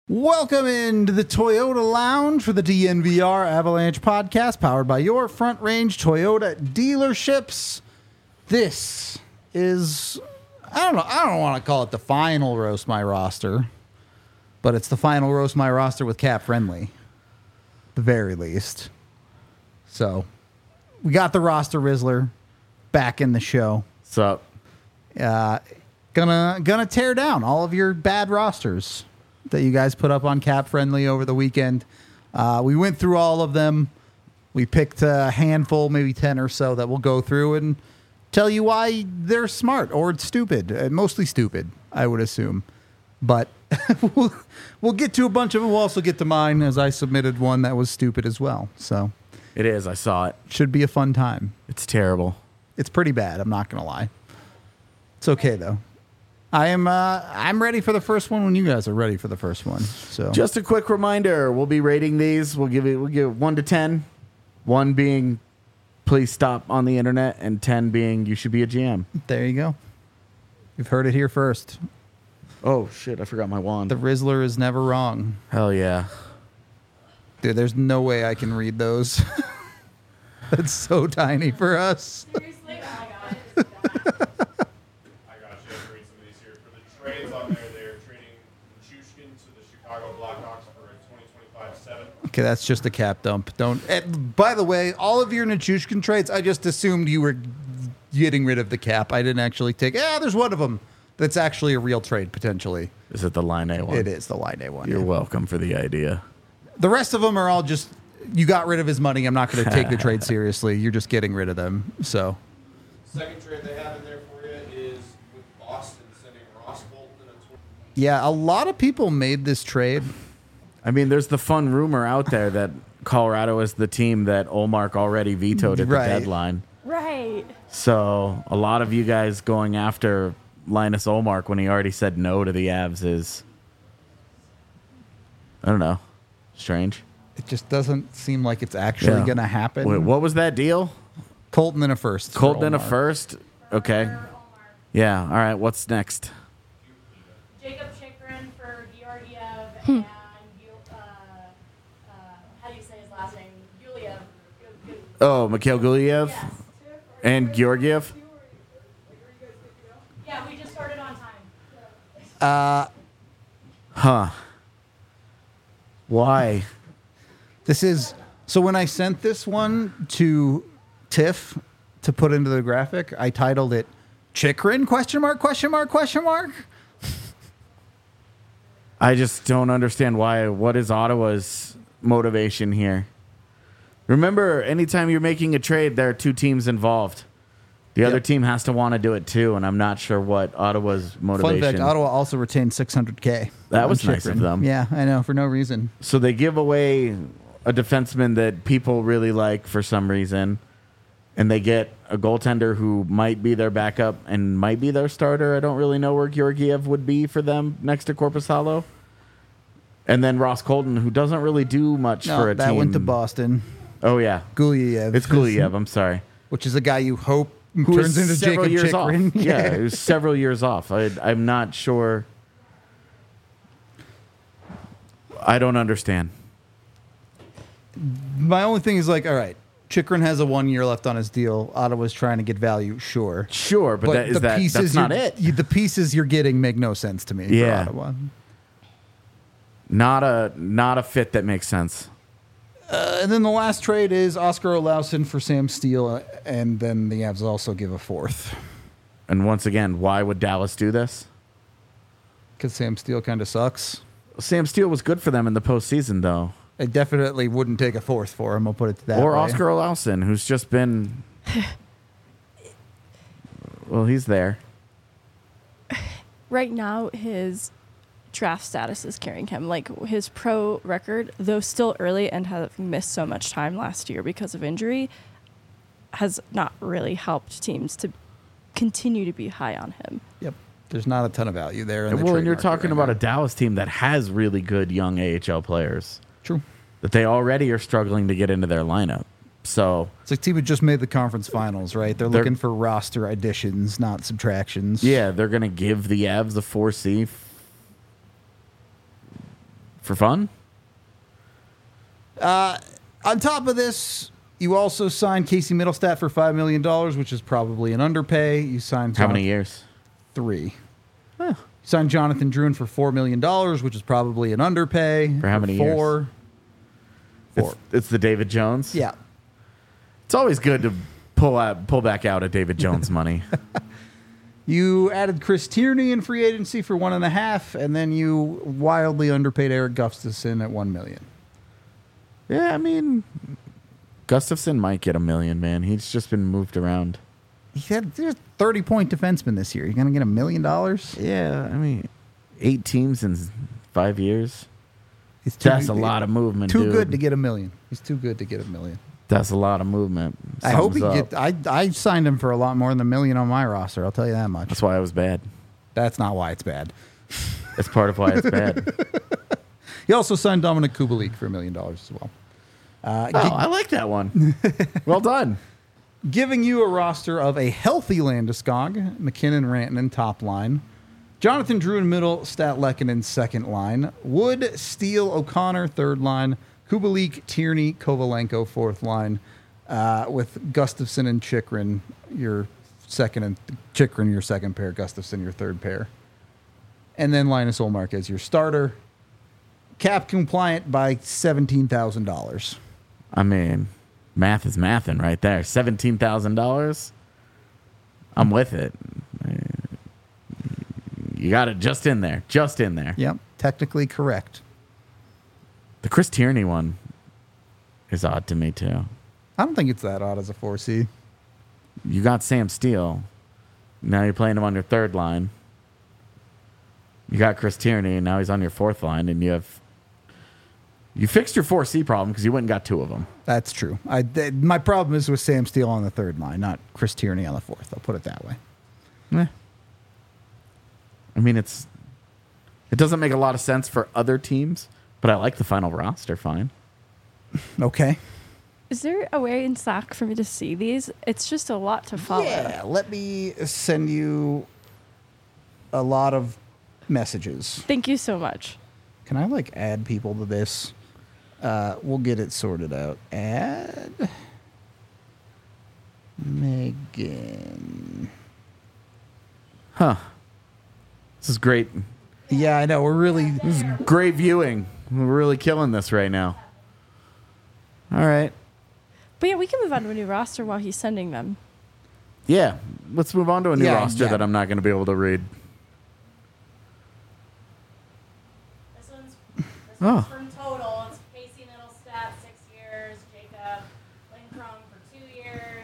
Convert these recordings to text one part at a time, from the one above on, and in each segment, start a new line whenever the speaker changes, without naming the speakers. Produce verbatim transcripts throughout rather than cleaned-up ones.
Welcome into the Toyota Lounge for the D N V R Avalanche podcast, powered by your Front Range Toyota dealerships. This is, I don't know, I don't want to call it the final Roast My Roster, but it's the final Roast My Roster with Cap Friendly, at the very least. So, we got the Roster Rizzler back in the show.
What's up?
Uh, gonna gonna tear down all of your bad rosters that you guys put up on Cap Friendly over the weekend. Uh, we went through all of them. We picked a handful, maybe ten or so, that we'll go through and tell you why they're smart or stupid. Uh, mostly stupid, I would assume. But we'll, we'll get to a bunch of them. We'll also get to mine, as I submitted one that was stupid as well. So
It is. I saw it.
should be a fun time.
It's terrible.
It's pretty bad, I'm not going to lie. It's okay, though. I am uh, I'm ready for the first one when you guys are ready for the first one. So
Just a quick reminder: we'll be rating these. We'll give it. We'll give it one to ten. One being, please stop on the internet, and ten being, you should be a G M.
there you go. You've heard it here first.
Oh shit! I forgot my wand.
The Rizzler is never wrong.
Hell yeah!
Dude, there's no way I can read those. That's so tiny for us.
Seriously? Oh my god.
I got you. I'll read some of these here. For the trades on there, they're trading Nichushkin to the Chicago Blackhawks for a twenty twenty-five seven.
Okay, that's just a cap dump. Don't. eh, by the way, all of your Nichushkin trades, I just assumed you were getting rid of the cap. I didn't actually take. Yeah, there's one of them that's actually a real trade potentially.
Is it the Line A one?
It is the Line A one.
You're
yeah.
welcome for the idea.
The rest of them are all just, you got rid of his money. I'm not going to take the trade seriously. You're just getting rid of them. So,
Second trade they have in there for you is with Boston sending Ross Bolton a twenty.
yeah, a lot of people made this trade.
I mean, there's the fun rumor out there that Colorado is the team that Olmark already vetoed at
Right.
the deadline.
Right.
So a lot of you guys going after Linus Olmark when he already said no to the Avs is, I don't know, strange.
It just doesn't seem like it's actually
Yeah.
going to happen.
Wait, what was that deal?
Colton in a first. for
Colton in a
Olmark.
first? Okay. Yeah, all right, what's next?
Jacob Chikrin for Georgiev and Yul- uh, uh, how do you say his last name? Yulia.
Oh, Mikhail Guliev
Yes.
and Georgiev?
Yeah, we just started on time.
Huh. Why?
This is, so when I sent this one to Tiff to put into the graphic, I titled it Chikrin question mark question mark question mark.
I just don't understand why. What is Ottawa's motivation here? Remember, anytime you're making a trade, there are two teams involved. The other
Yep.
team has to want to do it too, and I'm not sure what Ottawa's motivation.
Fun fact, Ottawa also retained six hundred K.
That
on
was nice of
Chikrin.
them.
Yeah, I know, for no reason.
So they give away a defenseman that people really like for some reason, and they get a goaltender who might be their backup and might be their starter. I don't really know where Georgiev would be for them next to Korpisalo. And then Ross Colton, who doesn't really do much
No,
for a
that
team.
went to Boston.
Oh, yeah.
Guliev.
It's Guliev. I'm sorry.
Which is a guy you hope
Who
turns
is
into
several
Jacob
years
Chikrin.
off. Yeah, it was several years off. I, I'm not sure. I don't understand.
My only thing is like, all right, Chikrin has a one year left on his deal. Ottawa's trying to get value, sure.
Sure, but, that, is
the
that,
pieces
that's not
you're-
it.
you- the pieces you're getting make no sense to me
Yeah.
for Ottawa.
Not a not a fit that makes sense.
Uh, and then the last trade is Oscar Olausen for Sam Steele, uh, and then the Avs also give a fourth.
And once again, why would Dallas do this?
Because Sam Steele kind of sucks.
Sam Steele was good for them in the postseason, though.
I definitely wouldn't take a fourth for him. I'll put it that
or
way.
Oscar Olausen, who's just been. Well, he's there.
Right now, his draft status is carrying him. Like his pro record, though still early and having missed so much time last year because of injury, has not really helped teams to continue to be high on him.
Yep. There's not a ton of value there. In the
Well,
trade
and you're
market
talking
right
about
now.
a Dallas team that has really good young A H L players
True.
that they already are struggling to get into their lineup. So
It's like team had just made the conference finals, right? They're,
They're-
looking for roster additions, not subtractions.
yeah, they're going to give the Avs the four C f- for fun.
On top of this, you also signed Casey Middlestat for five million dollars, which is probably an underpay. You signed
How many
Jonathan-
years?
Three. You signed Jonathan Druin for four million dollars, which is probably an underpay.
For how many years?
Four. Four.
It's, it's the David Jones.
Yeah.
It's always good to pull out, pull back out of David Jones money.
You added Chris Tierney in free agency for one and a half, and then you wildly underpaid Eric Gustafson at one million.
Yeah, I mean, Gustafson might get a million, man. He's just been moved around.
He had there's thirty point defenseman this year. You're gonna get a million dollars?
Yeah, I mean, eight teams in five years.
He's too,
That's a lot of movement,
Too
dude.
good to get a million. He's too good to get a million.
That's a lot of movement.
I hope he
Something's
get.
up.
I I signed him for a lot more than a million on my roster. I'll tell you that much.
That's why it was bad.
That's not why it's bad.
That's part of why it's bad.
He also signed Dominic Kubalik for a million dollars as well. Uh,
Oh,
gi-
I like that one. Well done.
giving you a roster of a healthy Landeskog, McKinnon, Rantanen top line, Jonathan Druin middle, Statlekkinen second line, Wood, Steele, O'Connor third line, Kubalik, Tierney, Kovalenko fourth line, uh, with Gustafson and Chikrin your second and Chikrin your second pair, Gustafson your third pair, and then Linus Ullmark as your starter. Cap compliant by seventeen thousand dollars.
I mean, math is mathin' right there. seventeen thousand dollars. I'm with it. You got it just in there. Just in there.
Yep, technically correct.
The Chris Tierney one is odd to me, too.
I don't think it's that odd as a four C.
You got Sam Steele. Now you're playing him on your third line. You got Chris Tierney, and now he's on your fourth line, and you have... You fixed your four C problem because you went and got two of them.
That's true. I, th- my problem is with Sam Steele on the third line, not Chris Tierney on the fourth. I'll put it that way.
Eh. I mean, it's... It doesn't make a lot of sense for other teams, but I like the final roster fine.
Okay.
Is there a way in Slack for me to see these? It's just a lot to follow.
Yeah, let me send you a lot of messages.
Thank you so much.
Can I, like, add people to this? Uh, we'll get it sorted out. Add Megan.
Huh. This is great.
Yeah, I know. We're really...
This is great viewing. We're really killing this right now. All right.
But yeah, we can move on to a new roster while he's sending them.
Yeah. Let's move on to a new
Yeah,
roster
yeah.
that I'm not going to be able to read.
This one's, this
Oh.
one's from total. It's Casey Middlestat, six years. Jacob Lindstrom for two years.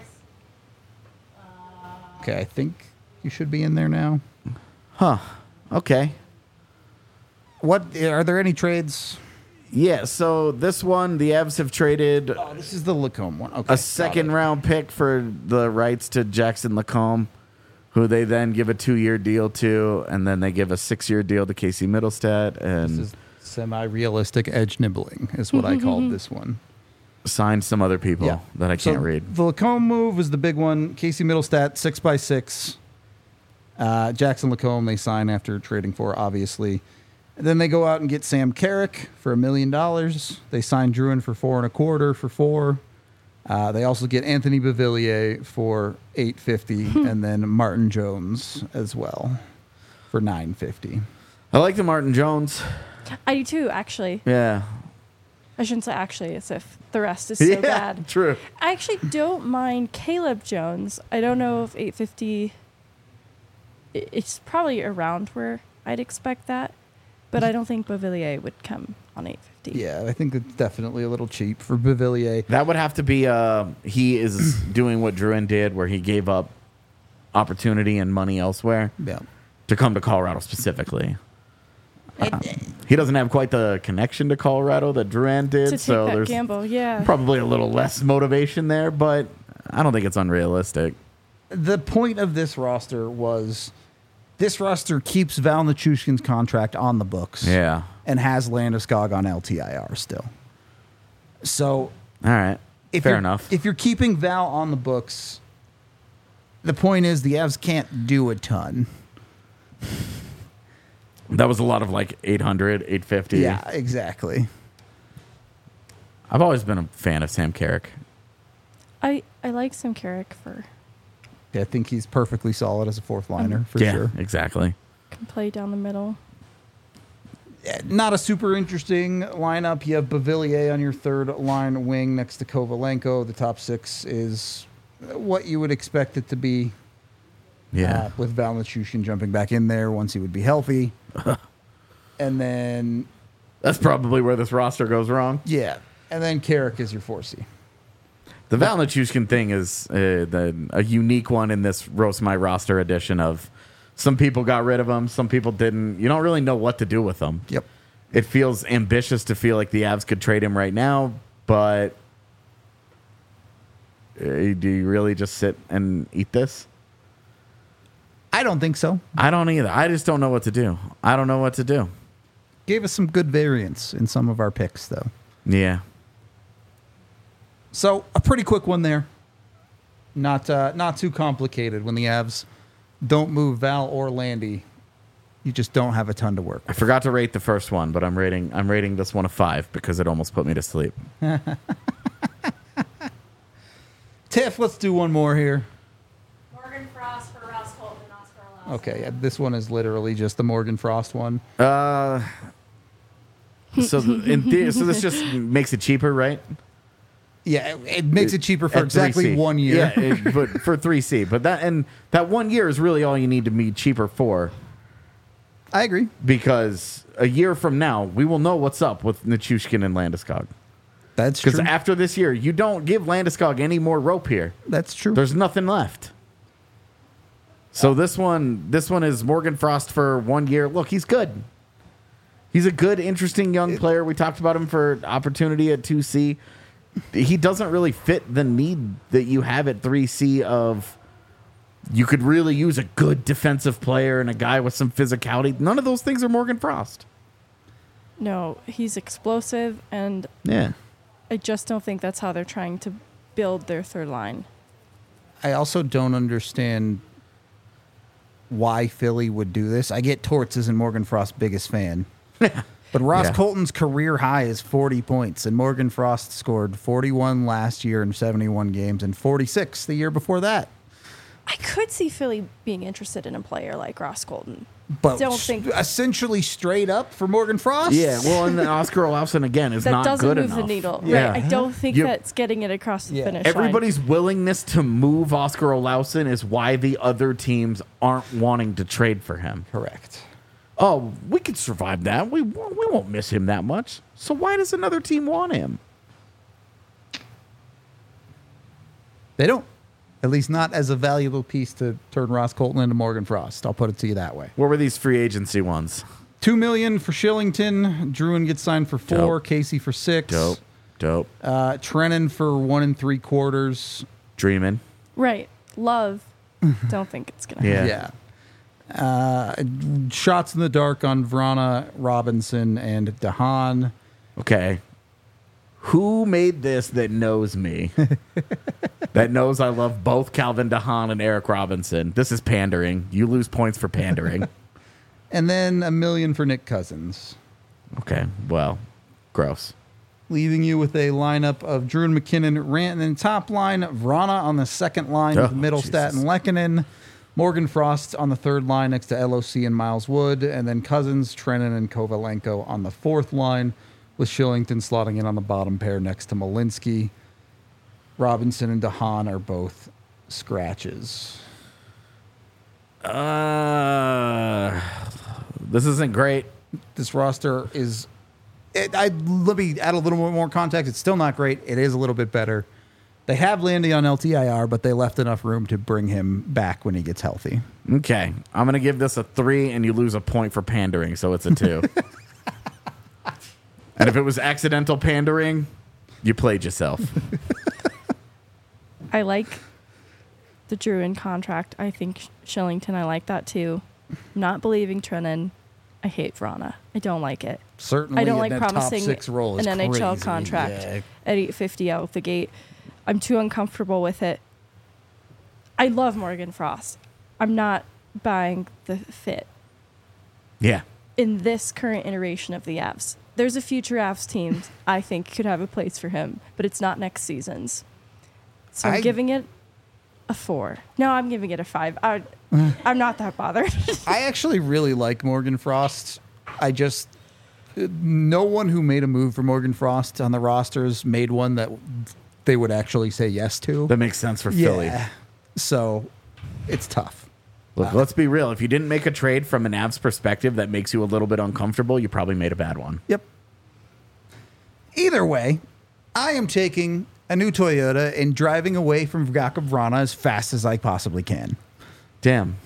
Uh,
Okay, I think you should be in there now.
Huh. Okay.
What are there any trades?
Yeah, so this one, the Avs have traded
Oh, this is the Lacombe one. Okay,
a
got
second
it.
round pick for the rights to Jackson Lacombe, who they then give a two-year deal to, and then they give a six-year deal to Casey Middlestat, and
This is semi-realistic edge nibbling, is what I called this one.
signed some other people
Yeah.
that I
So
can't read.
The Lacombe move was the big one. Casey Middlestat, six by six. Uh, Jackson Lacombe they sign after trading for, obviously. And then they go out and get Sam Carrick for a million dollars. They sign Druin for four and a quarter for four. Uh, they also get Anthony Beauvillier for eight fifty, and then Martin Jones as well for nine fifty.
I like the Martin Jones.
I do too, actually.
Yeah.
I shouldn't say actually, as if the rest is so
yeah,
bad.
true.
I actually don't mind Caleb Jones. I don't know if eight fifty. i- It's probably around where I'd expect that, but I don't think Beauvillier would come on eight fifty.
Yeah, I think it's definitely a little cheap for Beauvillier.
That would have to be, uh, he is doing what Druin did, where he gave up opportunity and money elsewhere
Yeah.
to come to Colorado specifically. Uh, he doesn't have quite the connection to Colorado that Duran did,
To take
so
that
there's
gamble, yeah.
probably a little less motivation there, but I don't think it's unrealistic.
The point of this roster was this roster keeps Val Nichushkin's contract on the books.
Yeah.
And has Landeskog on L T I R still. So
All right.
if
Fair
you're-
enough.
If you're keeping Val on the books, the point is the Avs can't do a ton.
That was a lot of like eight hundred, eight fifty.
Yeah, exactly.
I've always been a fan of Sam Carrick.
I, I like Sam Carrick for
I think he's perfectly solid as a fourth liner for
yeah,
sure.
exactly.
can play down the middle.
Not a super interesting lineup. You have Bavillier on your third line wing next to Kovalenko. The top six is what you would expect it to be.
Yeah.
Uh, with Val Nichushkin jumping back in there once he would be healthy. And then,
That's probably where this roster goes wrong.
yeah. And then Carrick is your four C.
The Val Nichushkin thing is uh, the, a unique one in this Roast My Roster edition of some people got rid of him, some people didn't. You don't really know what to do with him.
Yep.
It feels ambitious to feel like the Avs could trade him right now, but uh, do you really just sit and eat this?
I don't think so.
I don't either. I just don't know what to do. I don't know what to do.
Gave us some good variance in some of our picks, though.
Yeah.
So a pretty quick one there. Not uh, not too complicated. When the Avs don't move Val or Landy, you just don't have a ton to work
I
with.
forgot to rate the first one, but I'm rating I'm rating this one a five because it almost put me to sleep.
Tiff, let's do one more here.
Morgan Frost for Ross Colton and Oscar Olauskas.
Okay, yeah, this one is literally just the Morgan Frost one.
Uh, so th- in the- so this just makes it cheaper, right?
Yeah, it, it makes it cheaper for
At
exactly
three C.
one year.
Yeah, it, but for three C. But that and that one year is really all you need to be cheaper for,
I agree.
because a year from now we will know what's up with Nichushkin and Landeskog.
That's
Because
true.
after this year, you don't give Landeskog any more rope here.
That's true.
There's nothing left. So this one, this one is Morgan Frost for one year. Look, he's good. He's a good, interesting young player. We talked about him for opportunity at two C. He doesn't really fit the need that you have at three C of you could really use a good defensive player and a guy with some physicality. None of those things are Morgan Frost.
No, he's explosive, and
Yeah.
I just don't think that's how they're trying to build their third line.
I also don't understand why Philly would do this. I get Torts isn't Morgan Frost's biggest fan. But Ross
Yeah.
Colton's career high is forty points, and Morgan Frost scored forty-one last year in seventy-one games and forty-six the year before that.
I could see Philly being interested in a player like Ross Colton.
But
Don't think-
essentially straight up for Morgan Frost?
Yeah, well, and then Oscar Olafson again is
That
not
doesn't
good
move
enough.
the needle.
Yeah.
Right. I don't think
You-
that's getting it across the
Yeah.
finish line.
Everybody's willingness to move Oscar Olausen is why the other teams aren't wanting to trade for him.
Correct.
Oh, we could survive that. We won't- we won't miss him that much. So why does another team want him?
They don't. At least not as a valuable piece to turn Ross Colton into Morgan Frost. I'll put it to you that way.
What were these free agency ones?
Two million for Shillington. Druin gets signed for four.
Dope.
Casey for six.
Dope, dope.
Uh, Trennan for one and three quarters.
Dreaming.
Right. Love. Don't think it's going to
Yeah.
Yeah. Uh, shots in the dark on Vrana, Robinson, and DeHaan.
Okay. Who made this that knows me? That knows I love both Calvin DeHaan and Eric Robinson. This is pandering. You lose points for pandering.
And then a million for Nick Cousins.
Okay. Well, gross.
Leaving you with a lineup of Druin, McKinnon, Rantanen top line, Vrana on the second line
Oh,
with Middlestat
Jesus.
and Lehkonen, Morgan Frost on the third line next to L O C and Miles Wood, and then Cousins, Trennan, and Kovalenko on the fourth line, with Shillington slotting in on the bottom pair next to Malinsky. Robinson and DeHaan are both scratches.
Uh, this isn't great.
This roster is. It, I let me add a little bit more context. It's still not great. It is a little bit better. They have Landy on L T I R, but they left enough room to bring him back when he gets healthy.
Okay. I'm going to give this a three, and you lose a point for pandering, so it's a two. And if it was accidental pandering, you played yourself.
I like the Druin contract. I think Shillington, I like that too. Not believing Trennan. I hate Vrana. I don't like it.
Certainly,
I don't
in
like
that top
promising
six role
an
is
N H L
crazy.
contract
Yeah.
at eight fifty out the gate. I'm too uncomfortable with it. I love Morgan Frost. I'm not buying the fit.
Yeah.
in this current iteration of the Avs. There's a future Avs team I think could have a place for him, but it's not next season's. So I'm
I-
giving it a four. No, I'm giving it a five. I, I'm not that bothered.
I actually really like Morgan Frost. I just no one who made a move for Morgan Frost on the rosters made one that they would actually say yes to.
That makes sense for Philly.
So it's tough.
Look, let's be real. If you didn't make a trade from an Avs perspective that makes you a little bit uncomfortable, you probably made a bad one.
Yep. Either way, I am taking a new Toyota and driving away from Jakub Vrana as fast as I possibly can.
Damn.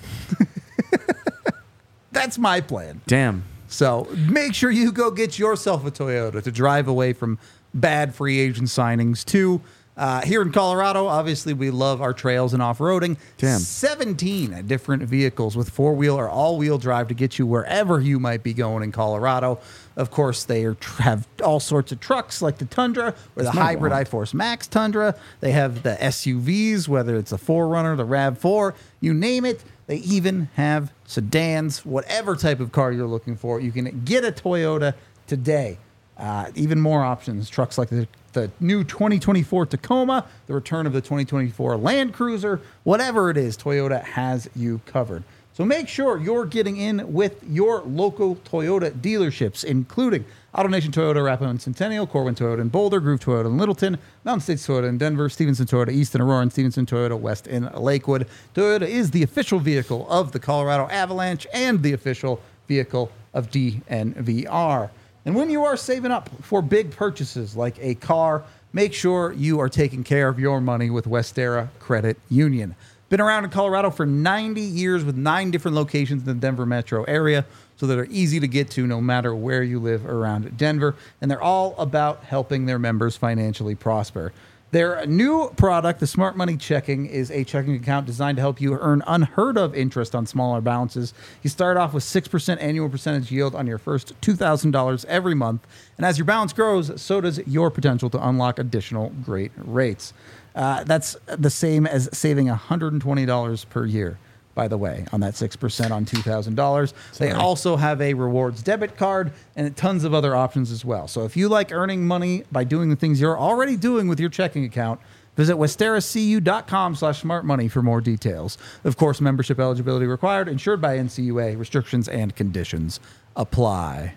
That's my plan.
Damn.
So make sure you go get yourself a Toyota to drive away from bad free agent signings too. Uh, here in Colorado, obviously, we love our trails and off-roading.
Damn.
seventeen different vehicles with four-wheel or all-wheel drive to get you wherever you might be going in Colorado. Of course, they are, have all sorts of trucks like the Tundra or the
my
hybrid
wallet.
iForce Max Tundra. They have the S U Vs, whether it's the four runner, the RAV four, you name it. They even have sedans, whatever type of car you're looking for. You can get a Toyota today. Uh, even more options, trucks like the, the new twenty twenty-four Tacoma, the return of the twenty twenty-four Land Cruiser, whatever it is, Toyota has you covered. So make sure you're getting in with your local Toyota dealerships, including AutoNation Toyota, Rapidan Centennial, Corwin Toyota in Boulder, Groove Toyota in Littleton, Mountain States Toyota in Denver, Stevenson Toyota East in Aurora, and Stevenson Toyota West in Lakewood. Toyota is the official vehicle of the Colorado Avalanche and the official vehicle of D N V R. And when you are saving up for big purchases like a car, make sure you are taking care of your money with Westera Credit Union. Been around in Colorado for ninety years with nine different locations in the Denver metro area, so that are easy to get to no matter where you live around Denver. And they're all about helping their members financially prosper. Their new product, the Smart Money Checking, is a checking account designed to help you earn unheard of interest on smaller balances. You start off with six percent annual percentage yield on your first two thousand dollars every month. And as your balance grows, so does your potential to unlock additional great rates. Uh, that's the same as saving one hundred twenty dollars per year, by the way, on that six percent on two thousand dollars. They also have a rewards debit card and tons of other options as well. So if you like earning money by doing the things you're already doing with your checking account, visit westeracu.com slash smart money for more details. Of course, membership eligibility required, insured by N C U A. Restrictions and conditions apply.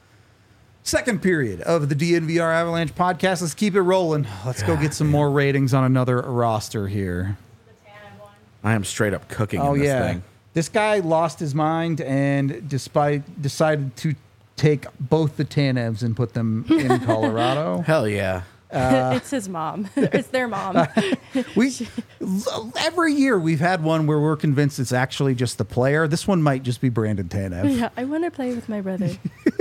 Second period of the D N V R Avalanche podcast. Let's keep it rolling. Let's go get some more ratings on another roster here.
The Tanev one.
I am straight up cooking
Oh,
in this
yeah.
thing.
This guy lost his mind and despite decided to take both the Tanevs and put them in Colorado.
Hell yeah.
It's his mom. It's their mom.
We every year we've had one where we're convinced it's actually just the player. This one might just be Brandon Tanev.
Yeah, I want to play with my brother.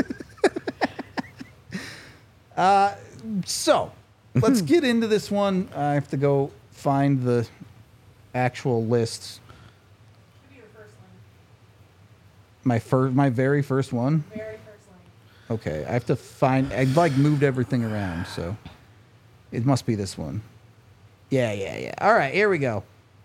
So let's get into this one. I have to go find the actual lists.
Should be your first link.
My first, my very first one.
Very first link.
Okay, I have to find. I like moved everything around, so it must be this one. Yeah, yeah, yeah. All right, here we go.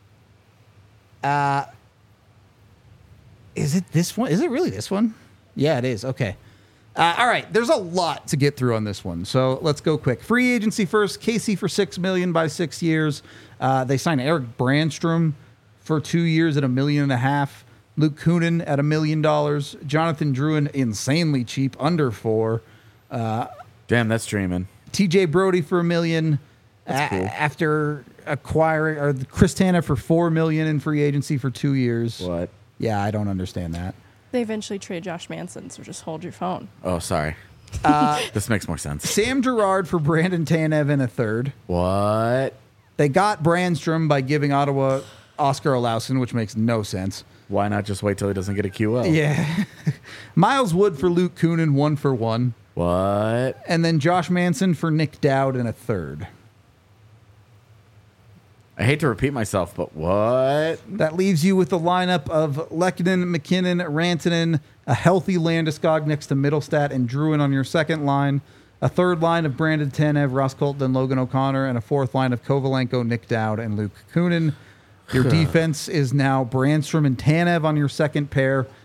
Uh, is it this one? Is it really this one? Yeah, it is. Okay. Uh, all right, there's a lot to get through on this one, so let's go quick. Free agency first. Casey for six million by six years. Uh, they signed Eric Brandstrom for two years at a million and a half. Luke Kunin at a million dollars. Jonathan Drouin insanely cheap, under four.
Damn, that's dreaming.
T J Brody for a million.
That's
A-
cool.
After acquiring or Chris Tanev for four million in free agency for two years.
What?
Yeah, I don't understand that.
They eventually trade Josh Manson, so just hold your phone.
Oh, sorry.
Uh,
this makes more sense.
Sam Girard for Brandon Tanev in a third.
What?
They got Brandstrom by giving Ottawa Oscar Olausen, which makes no sense.
Why not just wait till he doesn't get a Q L?
Yeah. Miles Wood for Luke Kunin, one for one.
What?
And then Josh Manson for Nick Dowd in a third.
I hate to repeat myself, but what?
That leaves you with the lineup of Lehkonen, McKinnon, Rantanen, a healthy Landeskog next to Middlestat and Drouin on your second line, a third line of Brandon Tanev, Ross Colton, Logan O'Connor, and a fourth line of Kovalenko, Nick Dowd, and Luke Kunin. Your defense is now Brandstrom and Tanev on your second pair,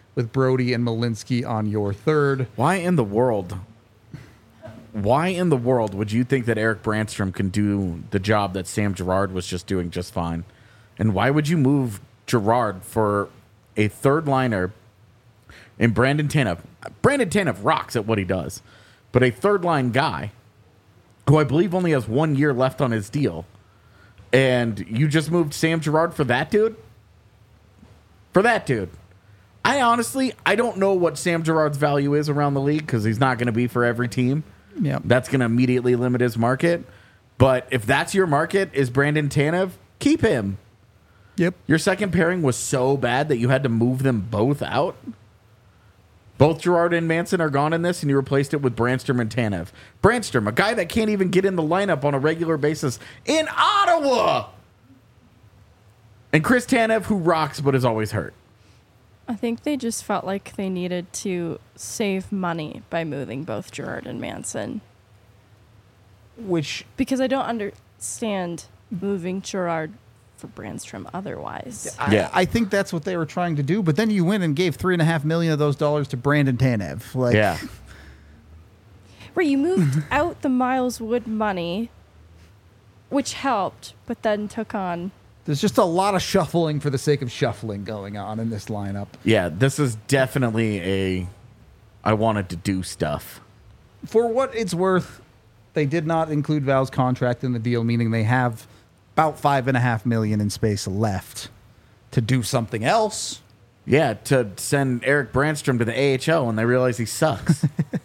with Brody and Malinsky on your third.
Why in the world? Why in the world would you think that Eric Brandstrom can do the job that Sam Girard was just doing just fine? And why would you move Girard for a third liner in Brandon Tanev? Brandon Tanev rocks at what he does, but a third line guy who I believe only has one year left on his deal, and you just moved Sam Girard for that dude? For that dude. I honestly, I don't know what Sam Girard's value is around the league because he's not going to be for every team.
Yeah.
That's going to immediately limit his market. But if that's your market, is Brandon Tanev, keep him.
Yep.
Your second pairing was so bad that you had to move them both out. Both Girard and Manson are gone in this, and you replaced it with Brandstrom and Tanev. Brandstrom, a guy that can't even get in the lineup on a regular basis in Ottawa. And Chris Tanev, who rocks but is always hurt.
I think they just felt like they needed to save money by moving both Girard and Manson.
Which
Because I don't understand moving Girard for Brandstrom otherwise.
I,
Yeah.
I think that's what they were trying to do. But then you went and gave three and a half million of those dollars to Brandon Tanev. Like,
Yeah.
Where you moved out the Miles Wood money, which helped, but then took on.
there's just a lot of shuffling for the sake of shuffling going on in this lineup.
Yeah, this is definitely a I wanted to do stuff.
For what it's worth, they did not include Val's contract in the deal, meaning they have about five and a half million in space left to do something else.
Yeah, to send Eric Brandstrom to the A H L when they realize he sucks.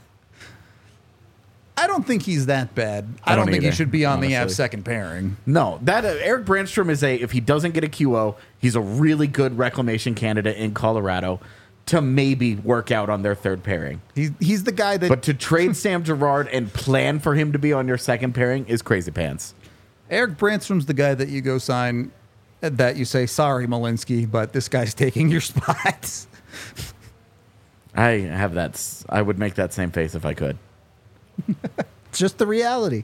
I don't think he's that bad. I,
I
don't,
don't
think he
either,
should be on the
honestly.
Avs second pairing.
No, that uh, Eric Brandstrom is a if he doesn't get a Q O, he's a really good reclamation candidate in Colorado to maybe work out on their third pairing.
He's he's the guy that
But to trade Sam Girard and plan for him to be on your second pairing is crazy pants.
Eric Brandstrom's the guy that you go sign, uh, that you say, sorry, Malinsky, but this guy's taking your spot.
I have that. s- I would make that same face if I could.
It's just the reality.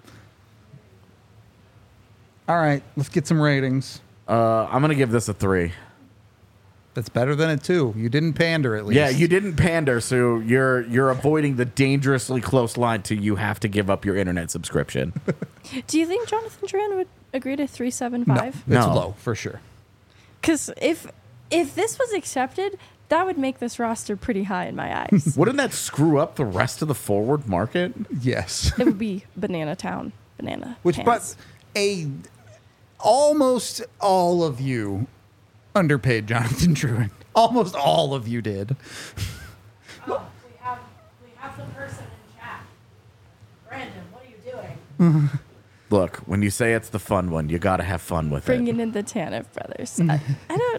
All right, let's get some ratings.
Uh, I'm gonna give this a three.
That's better than a two. You didn't pander at least.
Yeah, you didn't pander, so you're you're avoiding the dangerously close line to you have to give up your internet subscription.
Do you think Jonathan Drouin would agree to three seven
No,
five?
it's
No.
low for sure.
Because if if this was accepted, that would make this roster pretty high in my eyes.
Wouldn't that screw up the rest of the forward market?
Yes.
It would be Banana Town, Banana.
Which,
pants.
but a almost all of you underpaid Jonathan Drouin. Almost all of you did.
Oh, we have we have the person in chat. Brandon, what are you doing?
Look, when you say it's the fun one, you got to have fun with
bringing
it.
in the Tanev brothers. I, I don't.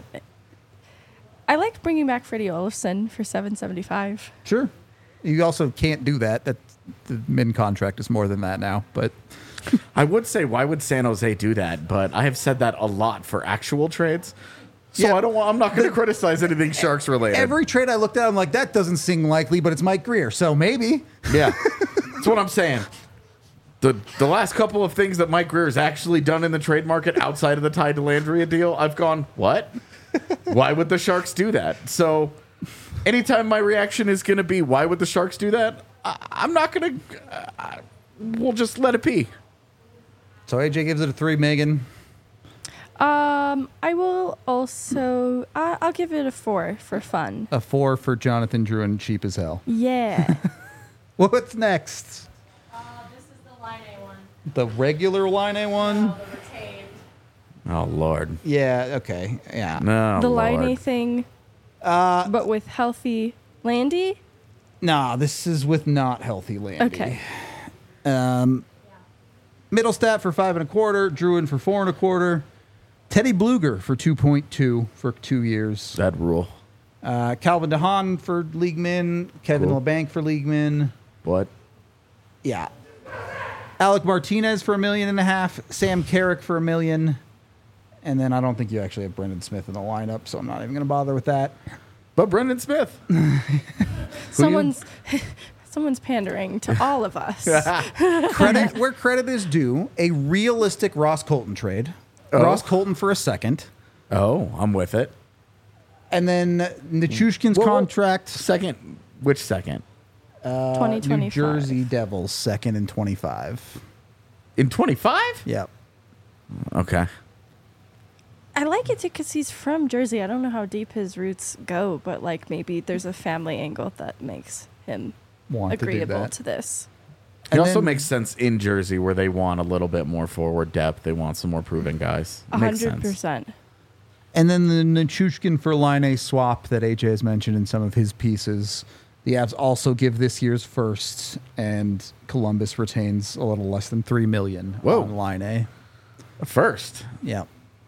I liked bringing back Freddie Olofsson for seven seventy five.
Sure. You also can't do that. That the min contract is more than that now. But
I would say, why would San Jose do that? But I have said that a lot for actual trades. So
Yeah.
I don't want, I'm not going to criticize anything Sharks related.
every trade I looked at, I'm like, that doesn't seem likely, but it's Mike Greer, so maybe.
Yeah, that's what I'm saying. The the last couple of things that Mike Greer has actually done in the trade market outside of the Ty Dellandrea deal, I've gone, what? Why would the Sharks do that? So anytime my reaction is going to be, why would the Sharks do that? I, I'm not going to, uh, we'll just let it be.
So A J gives it a three, Megan.
Um, I will also. I I'll give it a four for fun.
A four for Jonathan Drouin, cheap as hell.
Yeah.
What's next?
Uh, this is the line A one.
The regular line A one?
Oh, the retained.
Oh, Lord.
Yeah, okay. Yeah.
No,
the
Lord.
Line A thing, uh, but with healthy Landy.
Nah, this is with not healthy Landy.
Okay.
Um, Middlestat for five and a quarter, Drouin for four and a quarter, Teddy Bluger for two point two for two years.
That rule.
Uh, Calvin DeHaan for league min, Kevin
Cool.
LeBanc for league min.
What?
Yeah. Alec Martinez for a million and a half, Sam Carrick for a million, and then I don't think you actually have Brendan Smith in the lineup, so I'm not even going to bother with that.
But Brendan Smith.
Someone's someone's pandering to all of us.
Credit where credit is due, a realistic Ross Colton trade.
Oh.
Ross Colton for a second.
Oh, I'm with it.
And then Nichushkin's
Whoa, whoa.
contract,
Second, which second?
uh,
twenty
New
twenty-five.
Jersey Devils, second and twenty-five.
In twenty-five?
Yep.
Okay.
I like it because he's from Jersey. I don't know how deep his roots go, but like maybe there's a family angle that makes him
Want to do
agreeable
that.
to this.
It
And
also
then-
makes sense in Jersey where they want a little bit more forward depth. They want some more proven guys.
A
Makes
hundred
sense.
percent.
And then the Nichushkin for Line A swap that A J has mentioned in some of his pieces. The Avs also give this year's first, and Columbus retains a little less than three million
Whoa.
on Line A.
First.
Yeah.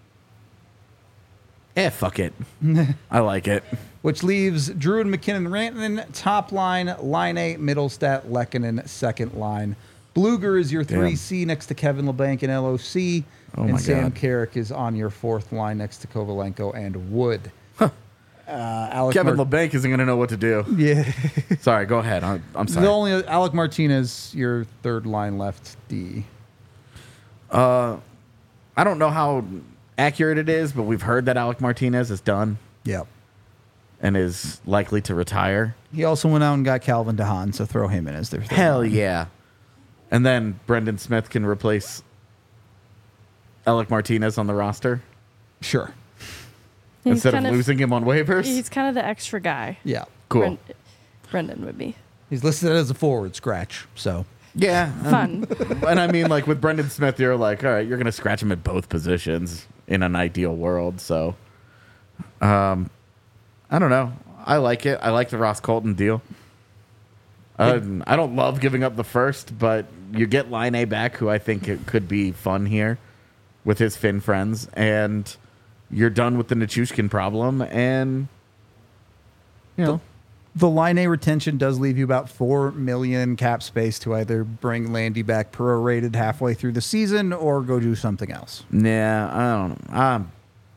Eh, fuck it. I like it.
Which leaves Drew and McKinnon Rantanen top line, Line A, Middlestat, Lehkonen second line. Bluger is your three C next to Kevin LeBanc and L O C.
Oh
and
my
Sam
God.
Carrick is on your fourth line next to Kovalenko and Wood. Uh, Alec
Kevin
Mar-
LeBanc isn't going to know what to do.
Yeah.
Sorry, go ahead. I'm, I'm sorry.
The only Alec Martinez, your third line left D.
I don't know how accurate it is, but we've heard that Alec Martinez is done
Yep.
and is likely to retire.
He also went out and got Calvin DeHaan, so throw him in as their third
Hell
line.
yeah. And then Brendan Smith can replace Alec Martinez on the roster
Sure.
He's
instead of
kind of-
losing him on waivers.
He's kind of the extra guy.
Yeah.
Cool.
Bren- Brendan would be
He's listed as a forward scratch, so.
Yeah.
fun.
And I mean, like with Brendan Smith, you're like, all right, you're going to scratch him at both positions in an ideal world. So, um, I don't know. I like it. I like the Ross Colton deal. Uh, I don't love giving up the first, but you get Line A back, who I think it could be fun here with his Finn friends, and you're done with the Nichushkin problem, and you know,
The Line A retention does leave you about four million cap space to either bring Landy back prorated halfway through the season or go do something else.
yeah, I don't know. Um,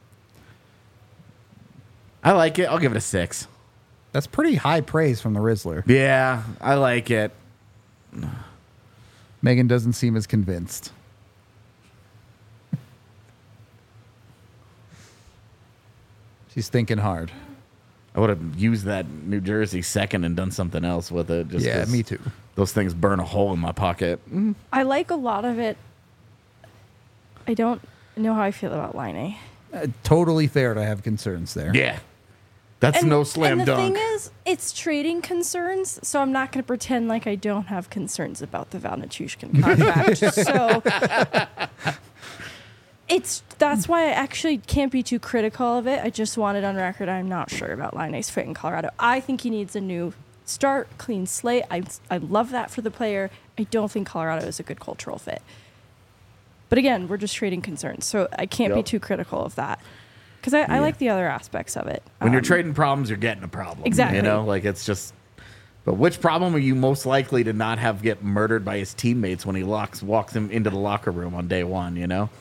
I like it. I'll give it a six.
That's pretty high praise from the Rizzler.
Yeah, I like it.
Megan doesn't seem as convinced. She's thinking hard.
I would have used that New Jersey second and done something else with it. Just
Yeah,
'cause
me too.
Those things burn a hole in my pocket.
I like a lot of it. I don't know how I feel about Line A.
Uh, totally fair to have concerns there.
Yeah, that's
And-
no slam
and the
dunk.
thing is, it's trading concerns, so I'm not going to pretend like I don't have concerns about the Val Nichushkin contract. so it's that's why I actually can't be too critical of it. I just wanted on record I'm not sure about Line A's fit in Colorado. I think he needs a new start, clean slate. I I love that for the player. I don't think Colorado is a good cultural fit. But again, we're just trading concerns, so I can't be
Yep.
too critical of that because I, I like the other aspects of it.
when you're
Um,
trading problems, you're getting a problem.
Exactly.
You know, like it's just. But which problem are you most likely to not have get murdered by his teammates when he locks walks him into the locker room on day one? You know.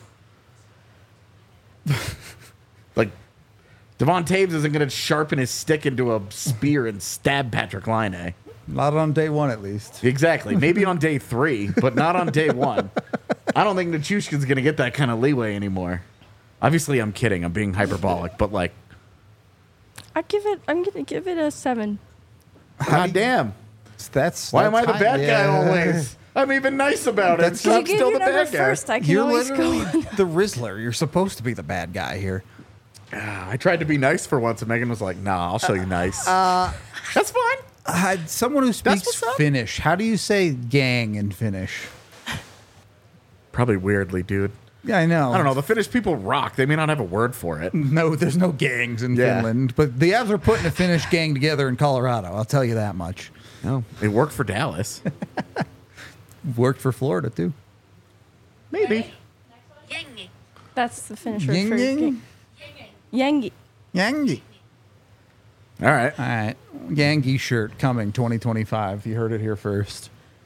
Like, Devon Taves isn't going to sharpen his stick into a spear and stab Patrick Laine.
Not on day one, at least.
Exactly. Maybe on day three, but not on day one. I don't think Nichushkin's going to get that kind of leeway anymore. Obviously, I'm kidding. I'm being hyperbolic, but like,
I give it. I'm gonna give it a seven.
god damn.
That's
Why am I
that's
the
high-
bad guy
yeah.
always? I'm even nice about it.
That's-
I'm
you gave
still
your
the
number
bad guy.
first. I can
You're
always
literally
go.
the Rizzler. You're supposed to be the bad guy here.
I tried to be nice for once, and Megan was like, "Nah, I'll show you nice." That's fine.
Uh, someone who speaks
what's up.
Finnish. How do you say gang in Finnish?
Probably weirdly, dude.
Yeah, I know.
I don't know. The Finnish people rock. They may not have a word for it.
No, there's no gangs in
Yeah.
Finland, but the Avs are putting a Finnish gang together in Colorado. I'll tell you that much.
No, it worked for Dallas.
Worked for Florida too.
Maybe.
That's the finisher
Ying
for
ying.
Yangi.
Yangi.
All right.
All right, Yangi shirt coming twenty twenty-five. You heard it here first.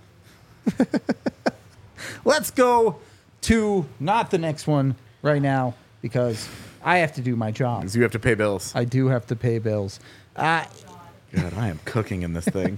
Let's go to not the next one right now because I have to do my job.
Because you have to pay bills.
I do have to pay bills. Uh,
God, I am cooking in this thing.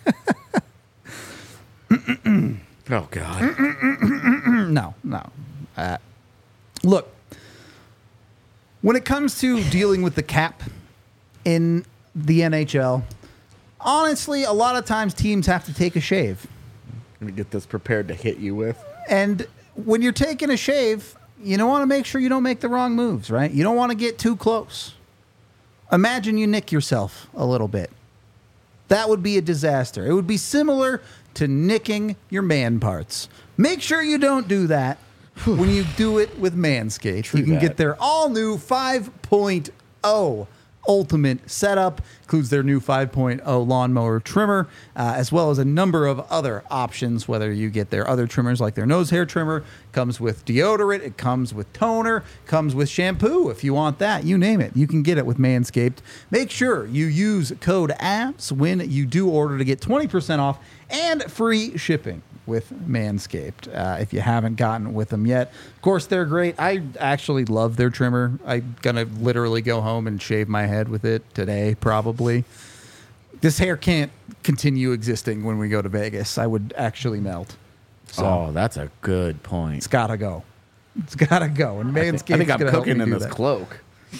Oh God.
no, no. Uh, look, when it comes to dealing with the cap in the N H L, honestly, a lot of times teams have to take a shave.
Let me get this prepared to hit you with.
And when you're taking a shave, you don't want to make sure you don't make the wrong moves, right? You don't want to get too close. Imagine you nick yourself a little bit. That would be a disaster. It would be similar to nicking your man parts. Make sure you don't do that when you do it with Manscaped.
True
you can
that.
get their all-new five point oh Ultimate setup. Includes their new five point oh lawnmower trimmer, uh, as well as a number of other options, whether you get their other trimmers like their nose hair trimmer. Comes with deodorant. It comes with toner. Comes with shampoo if you want that. You name it. You can get it with Manscaped. Make sure you use code A B S when you do order to get twenty percent off and free shipping with Manscaped, uh, if you haven't gotten with them yet. Of course, they're great. I actually love their trimmer. I'm going to literally go home and shave my head with it today, probably. This hair can't continue existing when we go to Vegas. I would actually melt. So
Oh, that's a good point.
it's got to go. It's got to go. And
I
Manscaped's
think, I think I'm
gonna help
cooking
me
in
do
this
that.
cloak.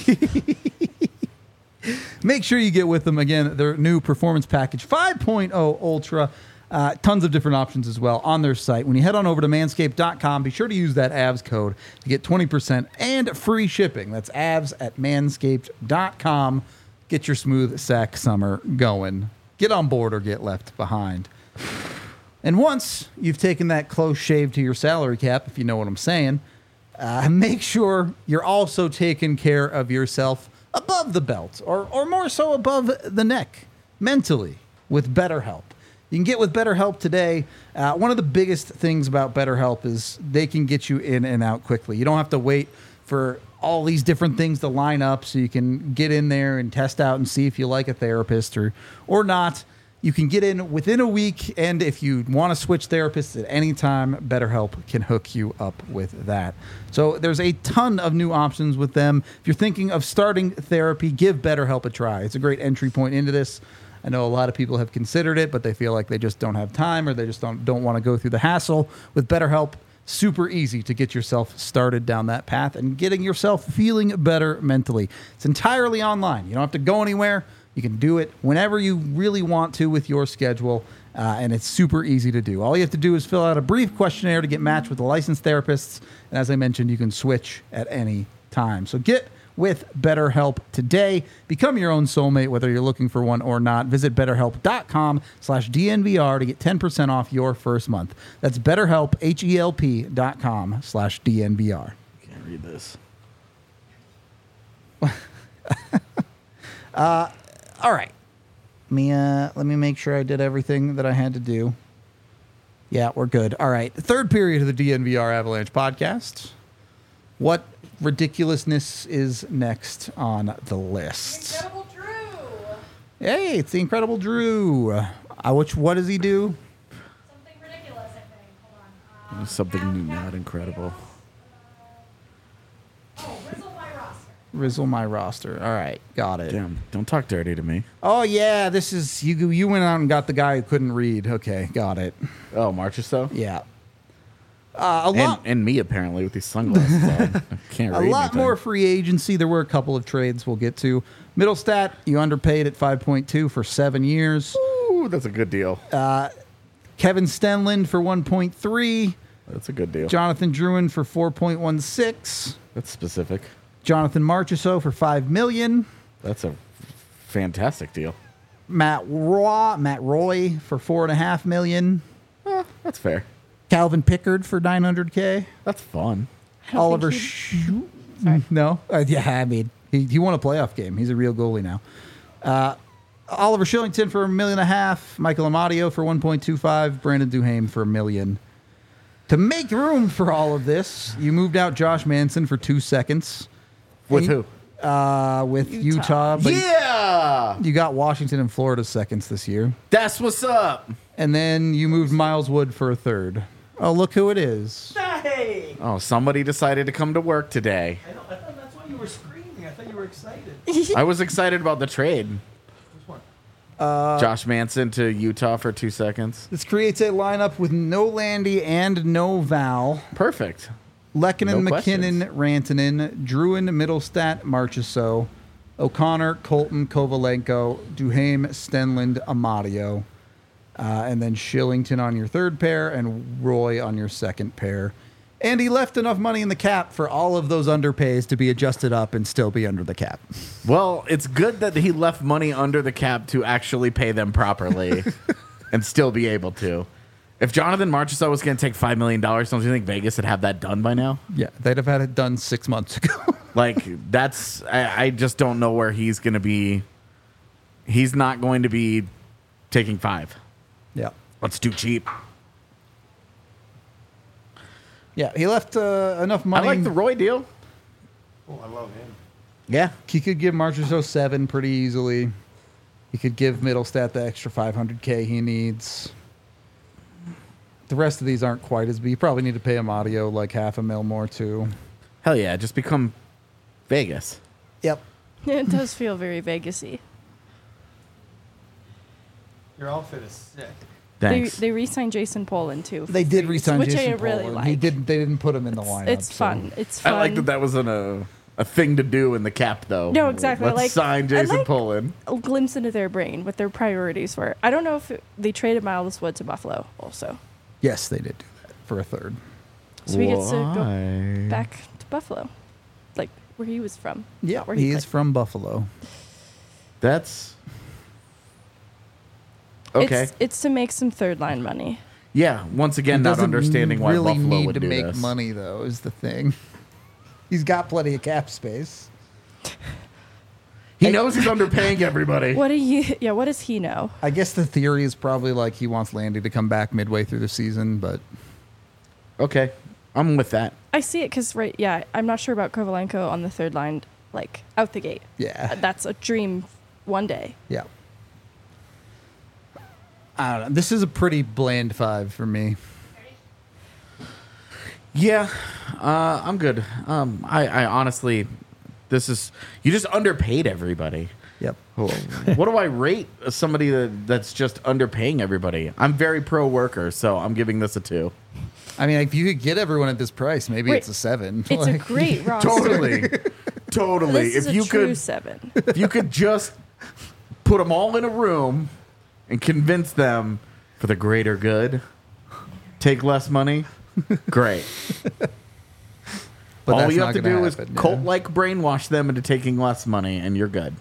Make sure you get with them again. Their new performance package five point oh Ultra. Uh, tons of different options as well on their site. When you head on over to manscaped dot com, be sure to use that A B S code to get twenty percent and free shipping. That's A B S at manscaped dot com. Get your smooth sack summer going. Get on board or get left behind. And once you've taken that close shave to your salary cap, if you know what I'm saying, uh, make sure you're also taking care of yourself above the belt, or, or more so above the neck, mentally, with BetterHelp. You can get with BetterHelp today. Uh, one of the biggest things about BetterHelp is they can get you in and out quickly. You don't have to wait for all these different things to line up, so you can get in there and test out and see if you like a therapist or or not. You can get in within a week, and if you want to switch therapists at any time, BetterHelp can hook you up with that. So there's a ton of new options with them. If you're thinking of starting therapy, give BetterHelp a try. It's a great entry point into this. I know a lot of people have considered it, but they feel like they just don't have time, or they just don't, don't want to go through the hassle. With BetterHelp, super easy to get yourself started down that path and getting yourself feeling better mentally. It's entirely online. You don't have to go anywhere. You can do it whenever you really want to with your schedule, uh, and it's super easy to do. All you have to do is fill out a brief questionnaire to get matched with a licensed therapist, and as I mentioned, you can switch at any time. So get with BetterHelp today. Become your own soulmate, whether you're looking for one or not. Visit betterhelp dot com slash D N V R to get ten percent off your first month. That's BetterHelp, H E L P dot com slash D N V R.
Can't read this.
uh, all right. Let me, uh, let me make sure I did everything that I had to do. Yeah, we're good. All right. The third period of the D N V R Avalanche podcast. What ridiculousness is next on the list?
Incredible Drew.
Hey, it's the Incredible Drew. Uh, which, what does he do?
Something ridiculous, I think. Hold on. Um,
Something
Cap-
not
Cap-
incredible.
Oh, Rizzle my roster.
Rizzle my roster. All right, got it.
Damn, don't talk dirty to me.
Oh yeah, this is you. You went out and got the guy who couldn't read. Okay, got it.
Oh, Marchessault?
Yeah. Uh, a
And,
lot.
and me, apparently, with these sunglasses on. I can't
A
read
lot
anything.
more free agency. There were a couple of trades we'll get to. Middlestat, you underpaid at five point two for seven years.
Ooh, that's a good deal.
Kevin Stenlund for one point three.
That's a good deal.
Jonathan Drouin for four point one six.
That's specific.
Jonathan Marchessault for five million.
That's a fantastic deal.
Matt Roy, Matt Roy for four and a half million.
Eh, that's fair.
Calvin Pickard for nine hundred k.
That's fun.
I don't
Oliver
think
Sh-
Sorry.
No, uh, yeah, I mean he, he won a playoff game. He's a real goalie now. Uh, Oliver Shillington for a million and a half. Michael Amadio for one point two five. Brandon Duhaime for a million. To make room for all of this, you moved out Josh Manson for two seconds.
With
And-
who?
Uh, with Utah, but
Yeah!
you got Washington and Florida seconds this year.
That's what's up.
And then you moved Miles Wood for a third. Oh, look who it is.
Hey!
Oh, somebody decided to come to work today.
I, know, I thought that's why you were screaming. I thought you were excited.
I was excited about the trade.
Which one?
Josh Manson to Utah for two seconds.
This creates a lineup with no Landy and no Val.
Perfect.
Lehkonen,
No
McKinnon, Rantanen, Druin, Middlestat, Marchessault. O'Connor, Colton, Kovalenko, Duhaime, Stenlund, Amadio. Uh, and then Shillington on your third pair and Roy on your second pair. And he left enough money in the cap for all of those underpays to be adjusted up and still be under the cap.
Well, it's good that he left money under the cap to actually pay them properly and still be able to. If Jonathan Marchessault was going to take five million dollars, don't you think Vegas would have that done by now?
Yeah, they'd have had it done six months ago.
Like, that's, I, I just don't know where he's going to be. He's not going to be taking five.
Yeah.
That's too cheap.
Yeah, he left uh, enough money.
I like the Roy deal.
Oh, I love him.
Yeah.
He could give Marchessault seven pretty easily. He could give Middlestat the extra five hundred K he needs. The rest of these aren't quite as big. You probably need to pay Amadio like half a mil more too.
Hell yeah. Just become Vegas.
Yep.
It does feel very Vegas-y.
Your outfit is sick.
They,
Thanks.
they re-signed Jason Poland too. for
They did
free,
resign
which
Jason
I really
Pollard.
like.
He didn't. They didn't put him in the lineup.
It's
so-
fun. It's
I
fun.
like that that was an, a, a thing to do in the cap, though.
No, exactly.
Let's
Like,
sign
I
Jason
like-
Poland.
A glimpse into their brain, what their priorities were. I don't know if it, they traded Miles Wood to Buffalo also.
Yes, they did do that for a third.
So he gets to go
Why?
back to Buffalo, like where he was from.
Yeah,
where
he,
he
is
played.
from Buffalo.
That's okay.
It's, it's to make some third line money.
Yeah. Once again,
He
not
doesn't
understanding why
really
Buffalo
need
would
to
do
make
this.
money though is the thing. He's got plenty of cap space.
He knows he's underpaying everybody.
What do you? Yeah, what does he know?
I guess the theory is probably like he wants Landy to come back midway through the season, but
Okay, I'm with that.
I see it because right, yeah, I'm not sure about Kovalenko on the third line, like out the gate.
yeah,
That's a dream one day.
yeah. I don't know. This is a pretty bland five for me.
Yeah, uh, I'm good. Um, I, I honestly, this is you just underpaid everybody.
Yep.
What do I rate somebody that, that's just underpaying everybody? I'm very pro worker, so I'm giving this a two.
I mean, if you could get everyone at this price, maybe
Wait,
it's a seven.
It's a
Like,
great roster.
Totally, totally.
This is
if
a
you
true
could,
seven.
if you could just put them all in a room and convince them for the greater good, take less money. Great.
but
all
that's
you
not
have to
gonna
do is
happen, yeah.
cult-like brainwash them into taking less money, and you're good.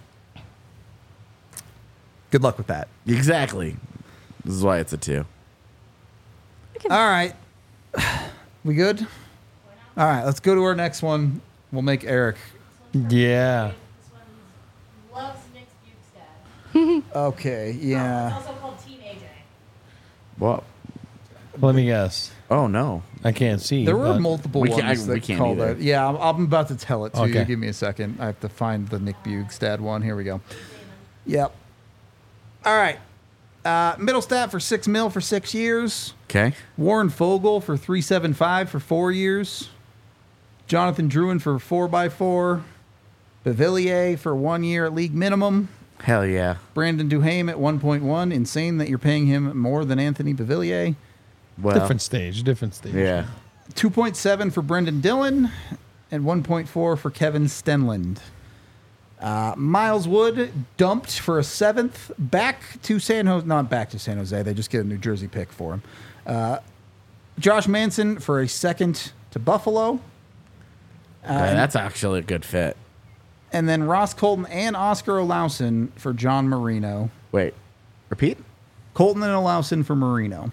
Good luck with that.
Exactly. This is why it's a two.
All right. We good? All right, let's go to our next one. We'll make Eric.
Yeah.
This one loves Nick Bukestad.
Okay,
It's
yeah.
also called Team A J.
Well,
Let me guess.
oh no.
I can't see.
There were
but-
multiple
We
ones
can't- I-
that
we can't
call
either.
that. Yeah, I'm, I'm about to tell it to you.
Okay.
Give me a second. I have to find the Nick Bugstad one. Here we go. Yep. All right. Uh, Middlestat for six mil for six years.
Okay.
Warren Fogle for three seven five for four years. Jonathan Druin for four by four. Bavillier for one year at league minimum.
Hell yeah.
Brandon Duhaime at one point one. Insane that you're paying him more than Anthony Bavillier.
Well,
different stage. Different stage.
Yeah.
two point seven for Brendan Dillon and one point four for Kevin Stenlund. Uh, Miles Wood dumped for a seventh back to San Jose. Not back to San Jose. They just get a New Jersey pick for him. Uh, Josh Manson for a second to Buffalo.
Yeah, that's actually a good fit.
And then Ross Colton and Oscar Olausen for John Marino.
Wait. Repeat?
Colton and Olausen for Marino.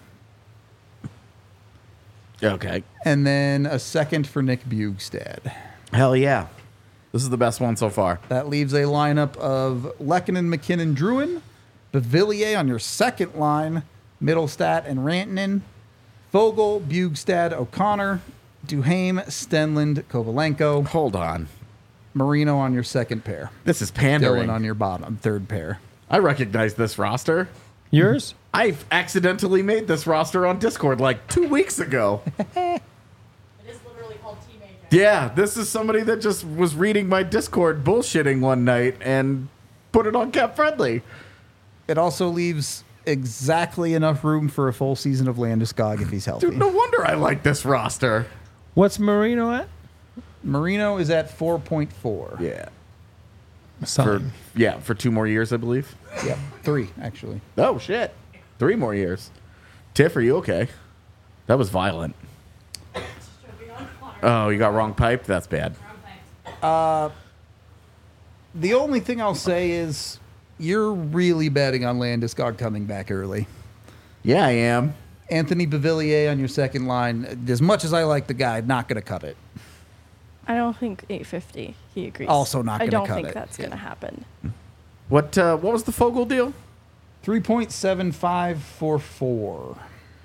Okay.
And then a second for Nick Bugstad.
Hell yeah. This is the best one so far.
That leaves a lineup of Lehkonen, McKinnon, Druin, Bavillier on your second line, Middlestat and Rantanen, Fogle, Bugstad, O'Connor, Duhaime, Stenlund, Kovalenko,
Hold on.
Marino on your second pair,
This is pandering.
Dylan on your bottom third pair.
I recognize this roster.
Yours?
I accidentally made this roster on Discord like two weeks ago.
It is literally called Team A J.
Yeah, this is somebody that just was reading my Discord bullshitting one night and put it on Cap Friendly.
It also leaves exactly enough room for a full season of Landeskog if he's healthy.
Dude, no wonder I like this roster.
What's Marino at?
Marino is at four point four.
Yeah. for
Sign.
yeah for two more years, I believe.
Yep, three actually.
Oh shit, three more years. Tiff, are you okay? That was violent. Oh, you got wrong pipe. That's bad.
The only thing I'll say is you're really betting on Landeskog coming back early.
Yeah, I am.
Anthony Beauvillier on your second line. As much as I like the guy, not going to cut it.
I don't think eight fifty. He agrees.
Also not
I
gonna
don't
cut
think
it.
that's
Yeah.
going to happen.
What uh, what was the Fogel deal?
three point seven five four four.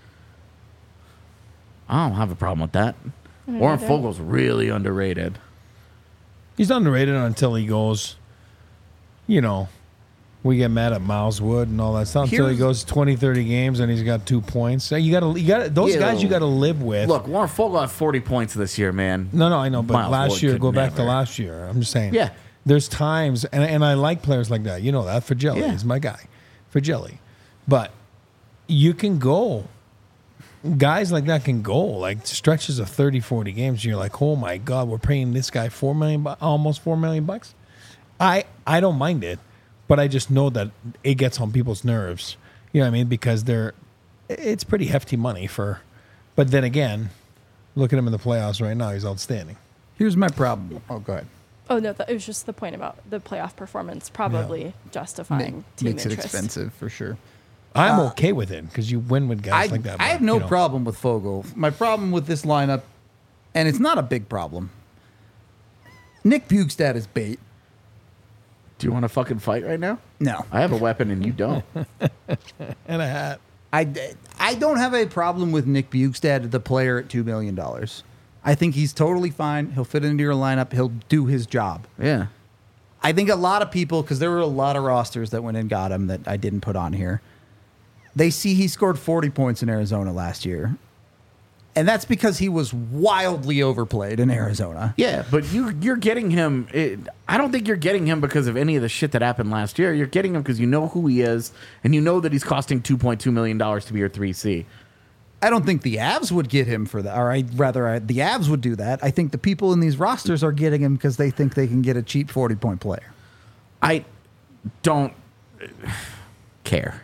I don't have a problem with that.
don't
Warren
either.
Fogel's really underrated.
He's underrated until he goes, you know, we get mad at Miles Wood and all that stuff until he
Here's-
goes twenty, thirty games and he's got two points. So you got to, you got those
Ew.
guys you got to live with.
Look, Warren Fogel had forty points this year, man.
No, no, I know, but
Miles
last
Wood
year,
could
go back to
never.
last year. I'm just saying.
Yeah.
There's times, and, and I like players like that. You know that. For Jelly
Yeah.
is my guy. For Jelly. But you can go. Guys like that can go. Like stretches of thirty, forty games. And you're like, oh my God, we're paying this guy four million, bu- almost four million bucks. I, I don't mind it, but I just know that it gets on people's nerves. You know what I mean? Because they're, it's pretty hefty money for, but then again, look at him in the playoffs right now. He's outstanding.
Here's my problem. Oh, go ahead.
Oh, no, that, it was just the point about the playoff performance probably justifying
Ma-
team
makes it
interest.
expensive for sure.
I'm
Uh,
okay with it because you win with guys
I,
like that.
I
but,
have no
you know.
problem with Fogel. My problem with this lineup, and it's not a big problem. Nick Bugstad is bait.
Do you want to fucking fight right now?
No,
I have a weapon and you don't.
And a hat.
I, I don't have a problem with Nick Bugstad, the player at two million dollars. I think he's totally fine. He'll fit into your lineup. He'll do his job.
Yeah.
I think a lot of people, because there were a lot of rosters that went and got him that I didn't put on here, they see he scored forty points in Arizona last year. And that's because he was wildly overplayed in Arizona.
Yeah, but you you're getting him. It, I don't think you're getting him because of any of the shit that happened last year. You're getting him because you know who he is and you know that he's costing two point two million dollars to be your three C.
I don't think the Avs would get him for that. Or I rather, I, the Avs would do that. I think the people in these rosters are getting him because they think they can get a cheap forty-point player.
I don't care.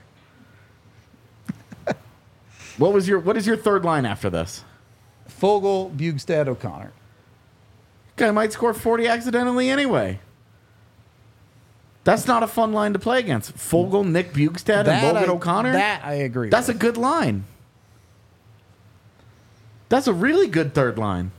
What was your what is your third line after this?
Fogel, Bugstad, O'Connor.
Guy might score forty accidentally anyway. That's not a fun line to play against. Fogel, Nick Bugstad, and Logan
I,
O'Connor.
That I agree
That's a
with.
good line. That's a really good third line.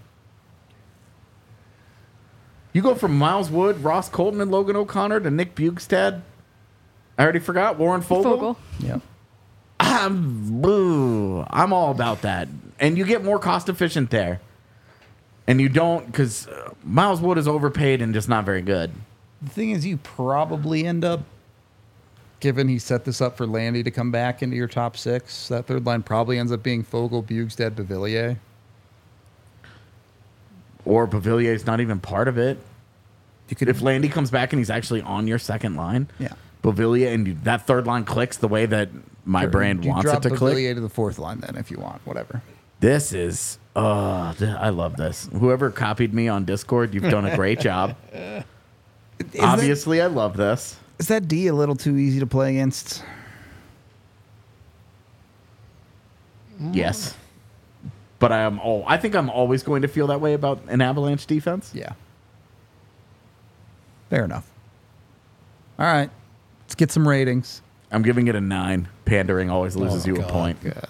You go from Miles Wood, Ross Colton, and Logan O'Connor to Nick Bugstad. I already forgot Warren Fogel.
Fogel.
Yep.
I'm, boo, I'm all about that. And you get more cost efficient there. And you don't, because uh, Miles Wood is overpaid and just not very good.
The thing is, you probably end up, given he set this up for Landy to come back into your top six, that third line probably ends up being Fogel, Bugstad, Beauvillier.
Or Pavillier's not even part of it.
You could,
If Landy comes back and he's actually on your second line,
yeah.
Pavillier, and you, that third line clicks the way that my brand
you
wants
drop
it to click.
Beauvillier to the fourth line then, if you want, whatever.
This is, uh, th- I love this. Whoever copied me on Discord, you've done a great job.
Is
Obviously, I love this.
That, is that D a little too easy to play against?
Yes. But I am all, I think I'm always going to feel that way about an Avalanche defense.
Yeah. Fair enough. All right. Let's get some ratings.
I'm giving it a nine. Pandering always loses
Oh,
you
God.
a point.
God.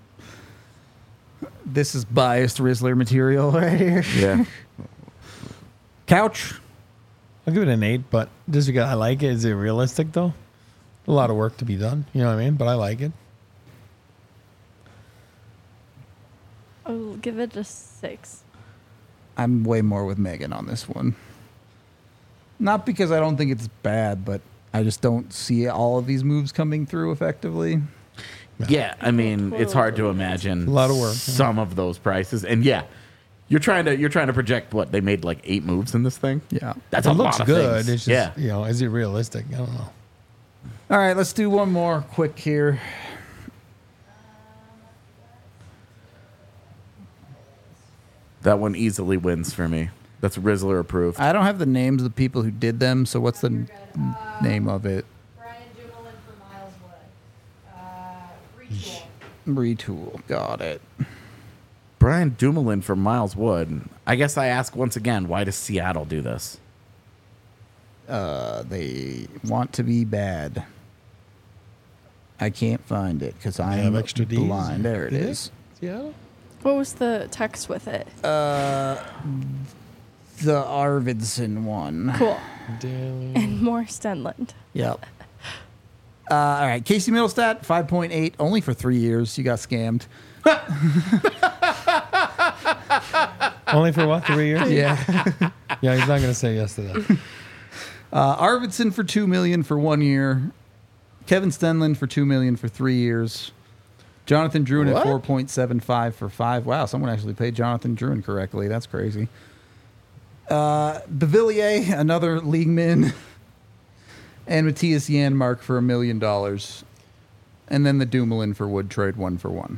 This is biased Rizzler material right here.
Yeah.
Couch.
I'll give it an eight, but just because I like it. Is it realistic though? A lot of work to be done. You know what I mean? But I like it.
I'll give it a six.
I'm way more with Megan on this one. Not because I don't think it's bad, but I just don't see all of these moves coming through effectively.
Yeah, I mean, it's hard to imagine
A lot of work,
some of those prices. And yeah, you're trying to you're trying to project what they made like eight moves in this thing.
Yeah.
That's
it
a
looks
lot of
good.
things.
It's just,
yeah.
you know, is it realistic? I don't know.
All right, let's do one more quick here.
That one easily wins for me. That's Rizzler approved.
I don't have the names of the people who did them, so what's the
You're
n-
good. Uh,
name of it?
Brian Dumoulin for Miles Wood. Uh, Retool.
Retool. Got it.
Brian Dumoulin for Miles Wood. I guess I ask once again, why does Seattle do this?
Uh, they want to be bad. I can't find it because
I
I'm
have extra D's.
blind. There it
Yeah.
is.
Seattle?
What was the text with it?
Uh, the Arvidsson one.
Cool.
Daily.
And more Stenland.
Yep. Uh, all right, Casey Middlestat, five point eight, only for three years. You got scammed.
Only for what? Three years?
Yeah.
Yeah, he's not going to say yes to that.
Uh, Arvidsson for two million for one year. Kevin Stenlund for two million for three years. Jonathan Druin at
What?
four point seven five for five. Wow, someone actually paid Jonathan Druin correctly. That's crazy. Uh, Bevillier, another league min, and Matthias Janmark for a million dollars, and then the Dumoulin for Wood trade one for one,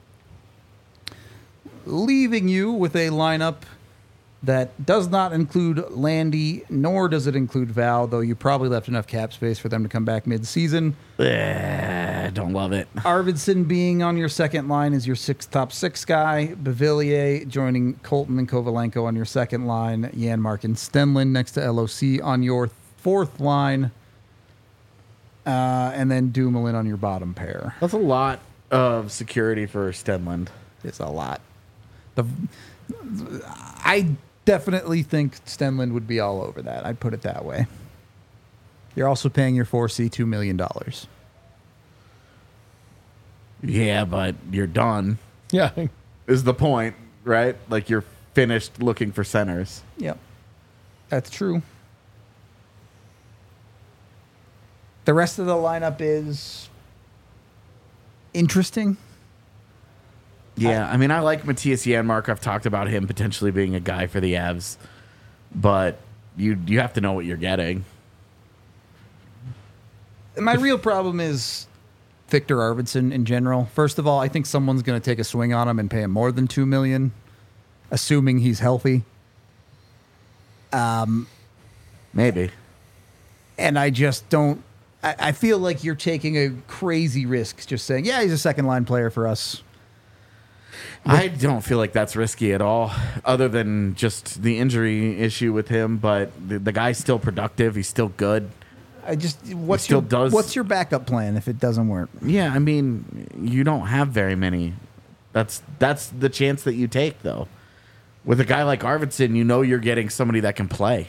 leaving you with a lineup that does not include Landy, nor does it include Val, though you probably left enough cap space for them to come back mid-season.
Eh, don't love it.
Arvidsson being on your second line is your six top six guy. Bevillier joining Colton and Kovalenko on your second line. Janmark and Stenlund next to L O C on your fourth line. Uh, and then Dumoulin on your bottom pair.
That's a lot of security for Stenlund.
It's a lot. The I definitely think Stenlund would be all over that. I'd put it that way. You're also paying your four C two million dollars.
Yeah, but you're done,
Yeah.
is the point, right? Like you're finished looking for centers.
Yep. That's true. The rest of the lineup is interesting.
Yeah, I mean, I like Matthias Janmark. I've talked about him potentially being a guy for the Avs, but you you have to know what you're getting.
My real problem is Victor Arvidsson in general. First of all, I think someone's going to take a swing on him and pay him more than two million dollars, assuming he's healthy.
Maybe.
And I just don't. I, I feel like you're taking a crazy risk just saying, yeah, he's a second line player for us.
I don't feel like that's risky at all, other than just the injury issue with him. But the, the guy's still productive. He's still good.
I just what's
still
your
does-
what's your backup plan if it doesn't work?
Yeah, I mean, you don't have very many. That's that's the chance that you take, though. With a guy like Arvidsson, you know you're getting somebody that can play.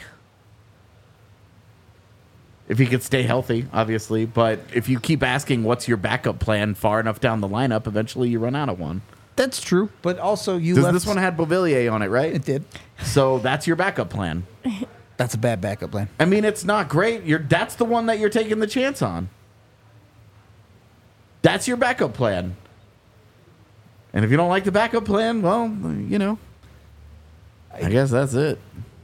If he could stay healthy, obviously. But if you keep asking what's your backup plan far enough down the lineup, eventually you run out of one.
That's true, but also you
Does
left.
this one had Beauvillier on it, right?
It did.
So that's your backup plan.
That's a bad backup plan.
I mean, it's not great. You're that's the one that you're taking the chance on. That's your backup plan. And if you don't like the backup plan, well, you know, I guess that's it.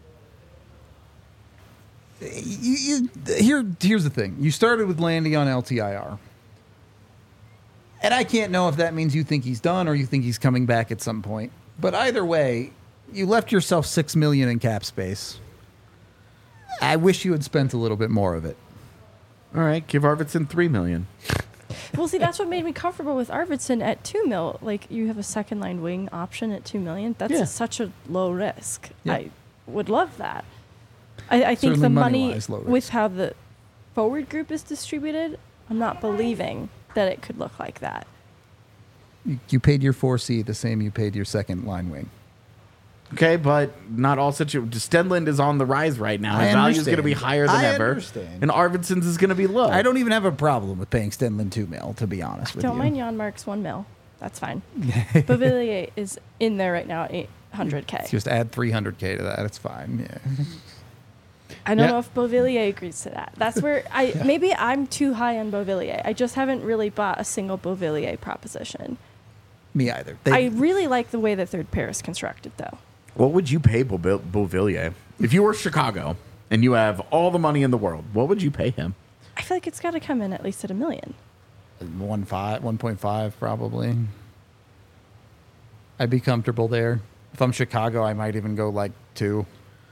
You, you, here, here's the thing. You started with Landy on L T I R. And I can't know if that means you think he's done or you think he's coming back at some point. But either way, you left yourself six million dollars in cap space. I wish you had spent a little bit more of it.
All right, give Arvidsson three million.
Well, see, that's what made me comfortable with Arvidsson at two mil. Like, you have a second line wing option at two million. That's
Yeah.
a, such a low risk.
Yeah.
I would love that. I, I think
Certainly
the money
money-wise, low risk.
with how the forward group is distributed, I'm not believing that it could look like that.
You, you paid your four C the same you paid your second line wing.
Okay, but not all situations. Stenlund is on the rise right now.
I
His value is going to be
understand.
higher than
I
ever.
understand.
And Arvidsson's is going to be low.
I don't even have a problem with paying Stenlund two mil, to be honest with
Don't
you.
mind Jan Mark's one mil. That's fine. Bavillier is in there right now at eight hundred K.
Just add three hundred K to that. It's fine. Yeah.
I don't
Yeah.
know if Beauvillier agrees to that. That's where I maybe I'm too high on Beauvillier. I just haven't really bought a single Beauvillier proposition.
Me either. They,
I really like the way the third pair is constructed, though.
What would you pay Beauvil- Beauvillier? If you were Chicago and you have all the money in the world, what would you pay him?
I feel like it's got to come in at least at a million.
one five, one point five probably. I'd be comfortable there. If I'm Chicago, I might even go like two.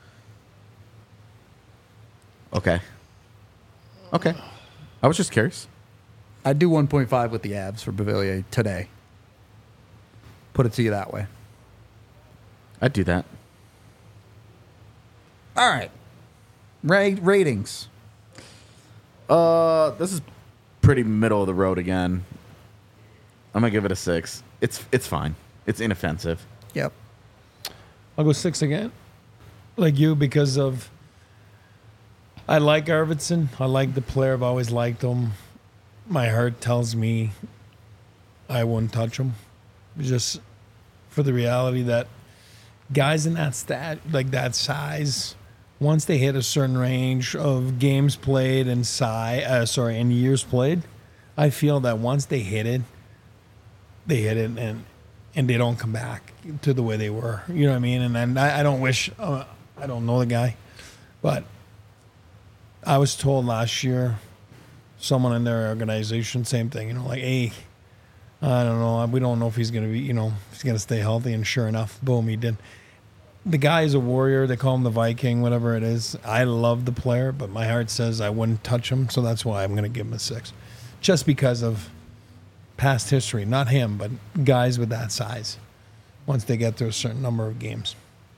Okay. Okay. I was just curious.
I'd do one point five with the Avs for Beauvillier today. Put it to you that way.
I'd do that.
All right. Ra- ratings.
Uh, this is pretty middle of the road again. I'm gonna give it a six. It's it's fine. It's inoffensive.
Yep.
I'll go six again, like you, because of I like Arvidsson. I like the player. I've always liked him. My heart tells me I wouldn't touch him, just for the reality that guys in that stat, like that size, once they hit a certain range of games played and size, uh, sorry, and years played, I feel that once they hit it, they hit it and and they don't come back to the way they were. You know what I mean? And then I, I don't wish, uh, I don't know the guy, but I was told last year, someone in their organization, same thing, you know, like, hey, I don't know, we don't know if he's going to be, you know, if he's going to stay healthy. And sure enough, boom, he did. The guy is a warrior. They call him the Viking, whatever it is. I love the player, but my heart says I wouldn't touch him. So that's why I'm going to give him a six. Just because of past history, not him, but guys with that size, once they get to a certain number of games.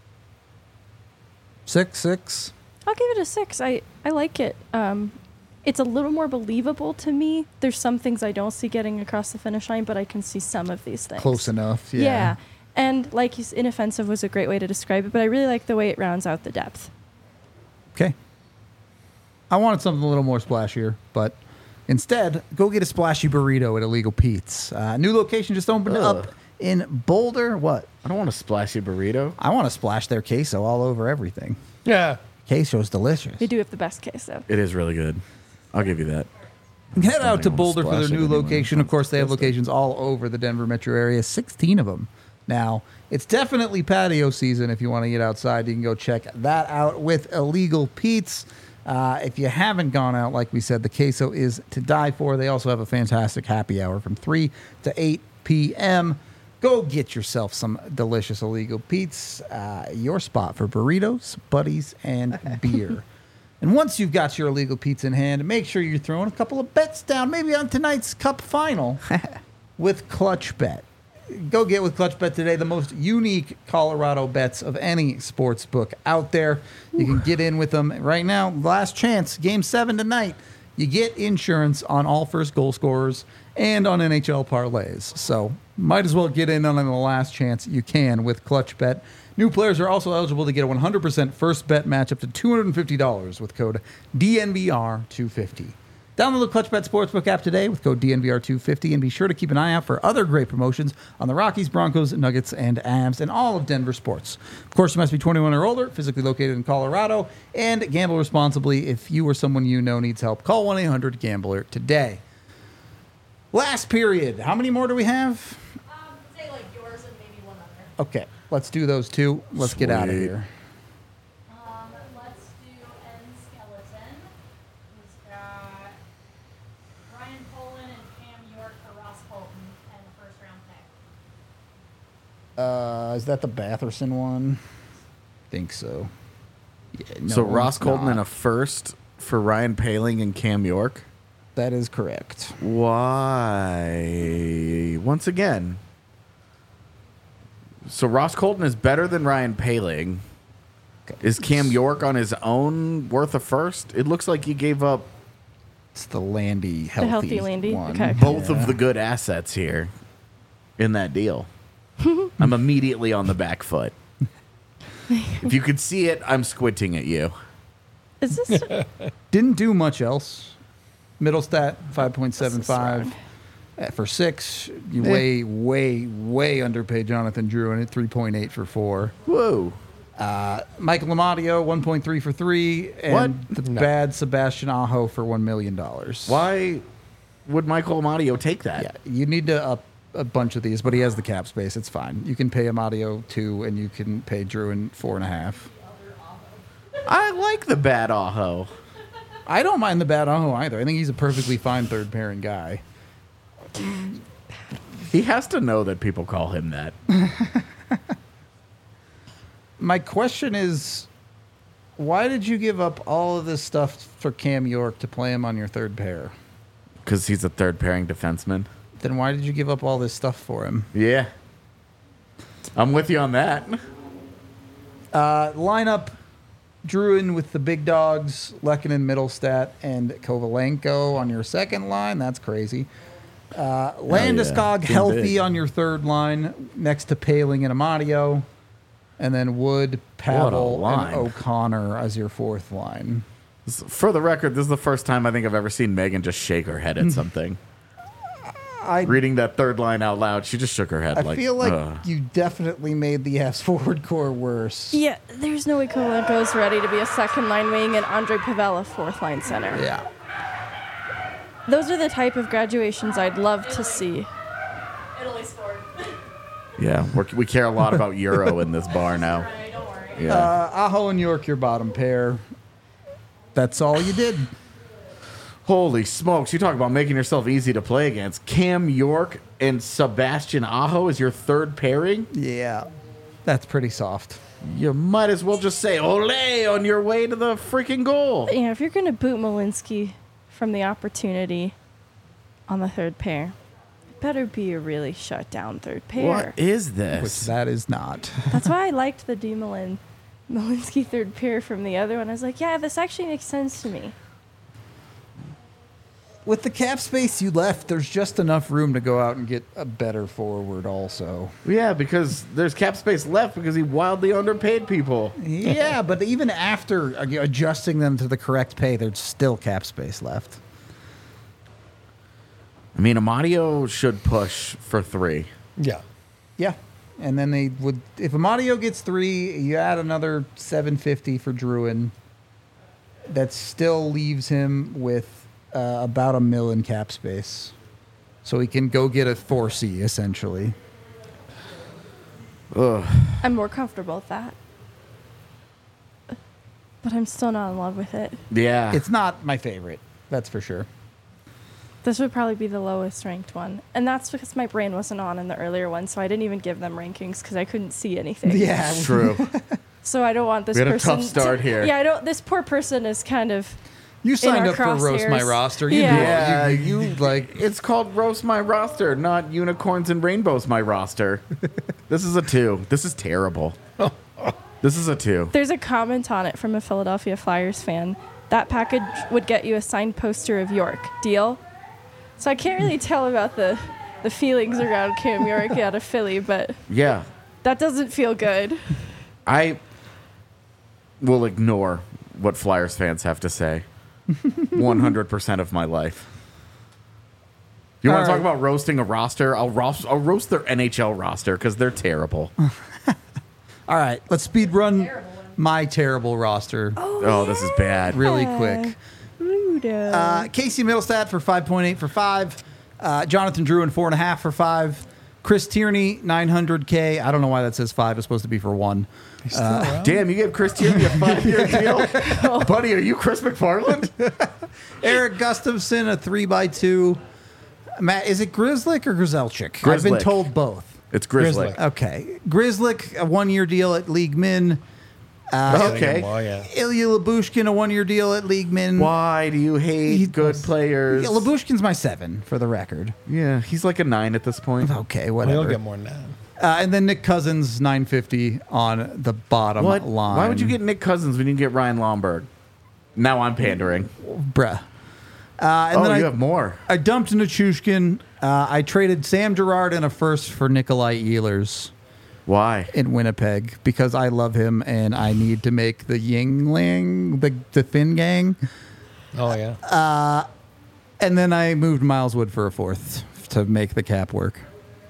Six, six.
I'll give it a six. I, I like it. Um, it's a little more believable to me. There's some things I don't see getting across the finish line, but I can see some of these things.
Close enough. Yeah.
Yeah. And like you s- inoffensive was a great way to describe it, but I really like the way it rounds out the depth.
Okay. I wanted something a little more splashier, but instead, go get a splashy burrito at Illegal Pete's. Uh, new location just opened
Ugh.
up in Boulder. What?
I don't want a splashy burrito.
I want to splash their queso all over everything.
Yeah.
Queso's delicious.
They do have the best case, though.
It is really good. I'll give you that.
Head out to
Something I wanna
Boulder for
splash
their
it
new
anyway.
location. Of course, they have
That's it.
locations all over the Denver metro area, sixteen of them. Now, it's definitely patio season. If you want to get outside, you can go check that out with Illegal Pete's. Uh, if you haven't gone out, like we said, the queso is to die for. They also have a fantastic happy hour from three to eight p.m. Go get yourself some delicious Illegal Pete's, uh, your spot for burritos, buddies, and beer. And once you've got your Illegal Pete's in hand, make sure you're throwing a couple of bets down, maybe on tonight's Cup final with Clutch Bet. Go get with Clutch Bet today the most unique Colorado bets of any sports book out there. You can get in with them right now. Last chance, Game seven tonight. You get insurance on all first goal scorers and on N H L parlays. So might as well get in on the last chance you can with Clutch Bet. New players are also eligible to get a one hundred percent first bet match up to two hundred fifty dollars with code D N V R two fifty. Download the Clutch Bet Sportsbook app today with code D N V R two fifty and be sure to keep an eye out for other great promotions on the Rockies, Broncos, Nuggets, and Avs and all of Denver sports. Of course, you must be twenty-one or older, physically located in Colorado, and gamble responsibly. If you or someone you know needs help, call one eight hundred gambler today. Last period. How many more do we have?
Um, say like yours and maybe one other.
Okay, let's do those two. Let's get out of
Sweet.
here.
Um, let's do N Skeleton. Who's got Ryan Poland and Cam York for Ross Colton and the first round pick.
Uh, is that the Batherson one? think so. Yeah, no,
so Ross
it's
Colton
not.
and a first for Ryan Poehling and Cam York.
That is correct.
Why? Once again. So Ross Colton is better than Ryan Poehling. Is Cam York on his own worth a first? It looks like he gave up
It's the Landy healthy,
healthy Landy?
one.
Okay.
both
Yeah.
of the good assets here in that deal. I'm immediately on the back foot. If you could see it, I'm squinting at you.
Is this
Didn't do much else. Middle stat five point seven five.
This is
Uh, For six, you way, way, way underpaid Jonathan Drew and at three point eight for four.
Whoa.
Uh, Michael Amadio, one point three for three. And
What?
the
No.
bad Sebastian Aho for one million dollars.
Why would Michael Amadio take that?
Yeah, you need to up a bunch of these, but he has the cap space. It's fine. You can pay Amadio two, and you can pay Drew in four and a half.
I like the bad Aho.
I don't mind the bad Aho either. I think he's a perfectly fine third pairing guy.
He has to know that people call him that.
My question is, why did you give up all of this stuff for Cam York to play him on your third pair?
Because he's a third pairing defenseman.
Then why did you give up all this stuff for him?
Yeah. I'm with you on that.
Uh, lineup, Druin with the big dogs, Lehkonen, Middlestat, and Kovalenko on your second line. That's crazy. Uh, Landeskog
Team
healthy
big.
on your third line next to Paling and Amadio. And then Wood,
What a
Pavel,
line.
and O'Connor as your fourth line.
For the record, this is the first time I think I've ever seen Megan just shake her head at something.
I
Reading that third line out loud, she just shook her head.
I
like,
feel like
"Ugh."
you definitely made the Avs forward core worse.
Yeah, there's no way Kovalenko's ready to be a second line wing and Andre Pavel a fourth line center.
Yeah.
Those are the type of graduations I'd love to see.
Italy scored.
Yeah, we're, we care a lot about Euro in this bar now.
Right, don't worry.
Yeah.
Uh, Aho and York, your bottom pair. That's all you did.
Holy smokes, you talk about making yourself easy to play against. Cam York and Sebastian Aho is your third pairing?
Yeah. That's pretty soft.
You might as well just say ole on your way to the freaking goal.
You know, if you're going to boot Malinsky from the opportunity on the third pair, it better be a really shut down third pair.
What is
Which
this?
that is not.
That's why I liked the Dumoulin Malinsky third pair from the other one. I was like, yeah, this actually makes sense to me.
With the cap space you left, there's just enough room to go out and get a better forward also.
Yeah, because there's cap space left because he wildly underpaid people.
Yeah, but even after adjusting them to the correct pay, there's still cap space left.
I mean, Amadio should push for three.
Yeah.
Yeah. And then they would, if Amadio gets three, you add another seven fifty for Druin. That still leaves him with uh, about a mil in cap space. So he can go get a four C, essentially.
Ugh.
I'm more comfortable with that. But I'm still not in love with it.
Yeah.
It's not my favorite, that's for sure.
This would probably be the lowest ranked one. And that's because my brain wasn't on in the earlier one, so I didn't even give them rankings because I couldn't see anything.
Yeah.
true.
So I don't want this
We had a
person
tough start
to-
here.
Yeah, I don't this poor person is kind of
You signed
our
up for Roast My
crosshairs.
Roster. You
Yeah.
know,
Yeah,
you,
you
like.
It's called Roast My Roster, not Unicorns and Rainbows My Roster. This is a two. This is terrible. This is a two.
there's a comment on it from a Philadelphia Flyers fan. That package would get you a signed poster of York. Deal? So I can't really tell about the the feelings around Cam York out of Philly, but
Yeah.
that doesn't feel good.
I will ignore what Flyers fans have to say one hundred percent of my life. You want
All
to talk
right.
about roasting a roster? I'll roast, I'll roast their N H L roster because they're terrible.
All right, let's speed run my terrible roster
Oh, this is bad.
really
Yeah.
quick.
Rudo.
Uh, Casey Middlestat for five point eight for five. Uh, Jonathan Druin four and a half for five. Chris Tierney nine hundred K. I don't know why that says five. It's supposed to be for one.
He's still around?
Damn, you gave Chris Tierney a five-year deal? Buddy, are you Chris McFarland?
Eric Gustafson a three by two. Matt, is it Grizzlick or Grizelchik? I've been
Grizzlick.
told both.
It's Grizzly.
Grizzly.
Okay, Grizzlick a one year deal at League Min. Uh,
Okay.
Well, yeah.
Ilya Labushkin a one year deal at League Min.
Why do you hate
He-
good players?
Yeah, Labushkin's my seven for the record.
Yeah, he's like a nine at this point.
Okay,
Well,
whatever.
he'll get more than that.
Uh, and then Nick Cousins nine fifty on the bottom
What?
line.
Why would you get Nick Cousins when you can get Ryan Lomberg? Now I'm pandering.
bruh? Uh, and
Oh,
then
you
I,
have more.
I dumped Nichushkin. Uh, I traded Sam Girard and a first for Nikolai Ehlers
Why?
in Winnipeg because I love him and I need to make the Yingling, the, the Thin Gang.
Oh, yeah.
And then I moved Miles Wood for a fourth to make the cap work.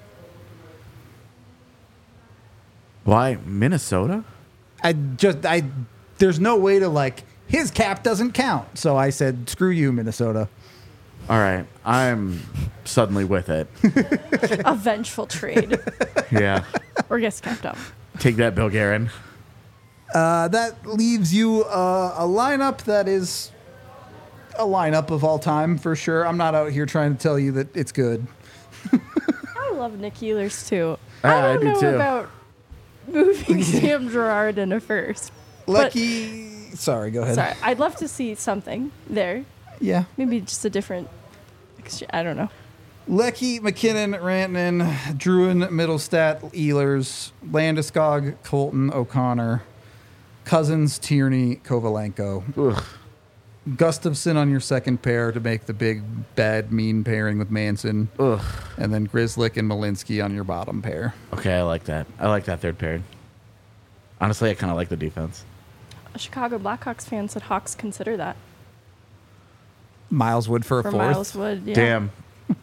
Why Minnesota?
I just, I, there's no way to like, his cap doesn't count. So I said, screw you, Minnesota.
All right, I'm suddenly with it.
A vengeful trade.
Yeah,
Or gets kept up.
take that, Bill Guerin.
Uh, that leaves you uh, a lineup that is a lineup of all time for sure. I'm not out here trying to tell you that it's good.
I love Nick Ehlers too.
Ah,
I
I
don't
do
know
too.
about moving Sam Gerard in a first. But
Lucky. Sorry, go ahead.
Sorry, I'd love to see something there.
Yeah.
Maybe just a different. extre- I don't know.
Lecky, McKinnon, Rantanen, Druin, Middlestat, Ehlers, Landeskog, Colton, O'Connor, Cousins, Tierney, Kovalenko.
Ugh.
Gustafson on your second pair to make the big, bad, mean pairing with Manson.
Ugh.
And then Grizzlick and Malinsky on your bottom pair.
Okay, I like that. I like that third pairing. Honestly, I kind of like the defense.
A Chicago Blackhawks fan said Hawks consider that
Miles Wood for a
for
fourth.
Miles Wood. Yeah.
Damn.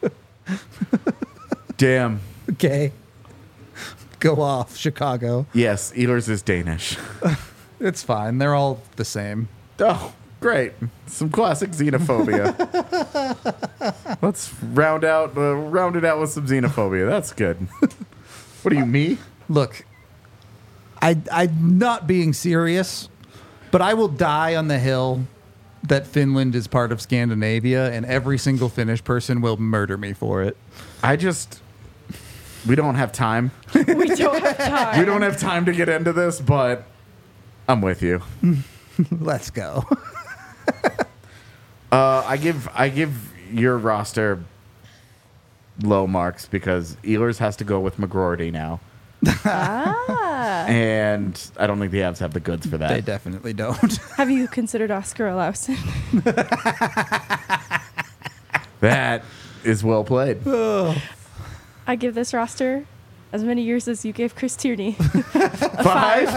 Damn.
Okay. Go off, Chicago.
Yes, Ehlers is Danish.
It's fine. They're all the same.
Oh, great. Some classic xenophobia. Let's round out uh, round it out with some xenophobia. That's good. What are you, me?
Look, I, I'm not being serious, but I will die on the hill that Finland is part of Scandinavia, and every single Finnish person will murder me for it.
I just... We don't have time.
We don't have time.
We don't have time to get into this, but I'm with you.
Let's go.
Uh, I give I give your roster low marks because Ehlers has to go with McGroarty now.
Ah.
And I don't think the Avs have the goods for that.
They definitely don't.
Have you considered Oscar Olausen?
That is well played.
I give this roster as many years as you gave Chris Tierney.
Five?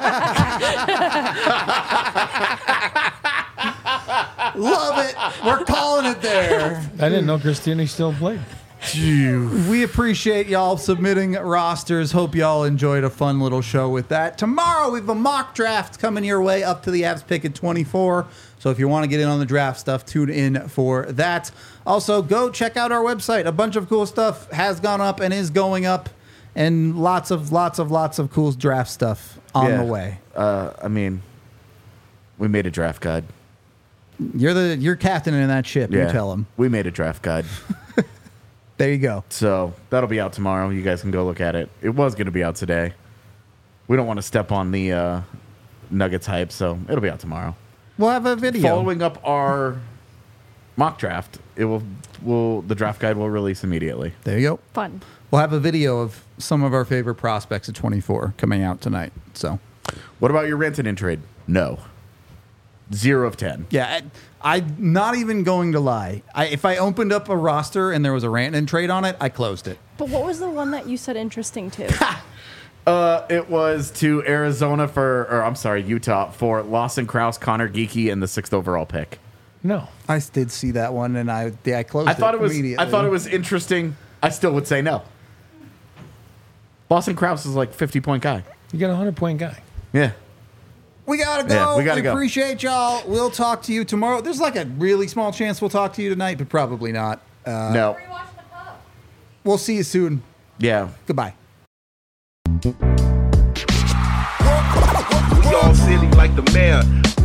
Love it. We're calling it there.
I didn't know Christiani still played.
We appreciate y'all submitting rosters. Hope y'all enjoyed a fun little show with that. Tomorrow we have a mock draft coming your way up to the Avs pick at twenty-four. So if you want to get in on the draft stuff, tune in for that. Also, go check out our website. A bunch of cool stuff has gone up and is going up, and lots of lots of lots of cool draft stuff on
Yeah.
the way.
Uh, I mean, we made a draft guide.
You're the you're captain in that ship. You tell them.
We made a draft guide.
There you go.
So that'll be out tomorrow. You guys can go look at it. It was going to be out today. We don't want to step on the uh, Nuggets hype, so it'll be out tomorrow.
We'll have a video.
Following up our mock draft, it will will the draft guide will release immediately.
There you go.
Fun.
We'll have a video of some of our favorite prospects at twenty-four coming out tonight. So,
What about your Rantanen trade? No. Zero of ten.
yeah, I, I'm not even going to lie. I, if I opened up a roster and there was a Rantanen trade on it, I closed it.
But what was the one that you said interesting to?
Uh, it was to Arizona for, or I'm sorry, Utah for Lawson Krause, Connor Geeky, and the sixth overall pick.
No.
I did see that one, and I yeah, I closed
I thought
it
it was.
immediately.
I thought it was interesting. I still would say no. Lawson Krause is like fifty point guy.
You got a hundred point guy.
Yeah.
We gotta go.
Yeah, we gotta go.
Appreciate y'all. We'll talk to you tomorrow. There's like a really small chance we'll talk to you tonight, but probably not. Uh,
no.
Rewatch the pub.
We'll see you soon.
Yeah.
Goodbye.
We all silly like the mayor.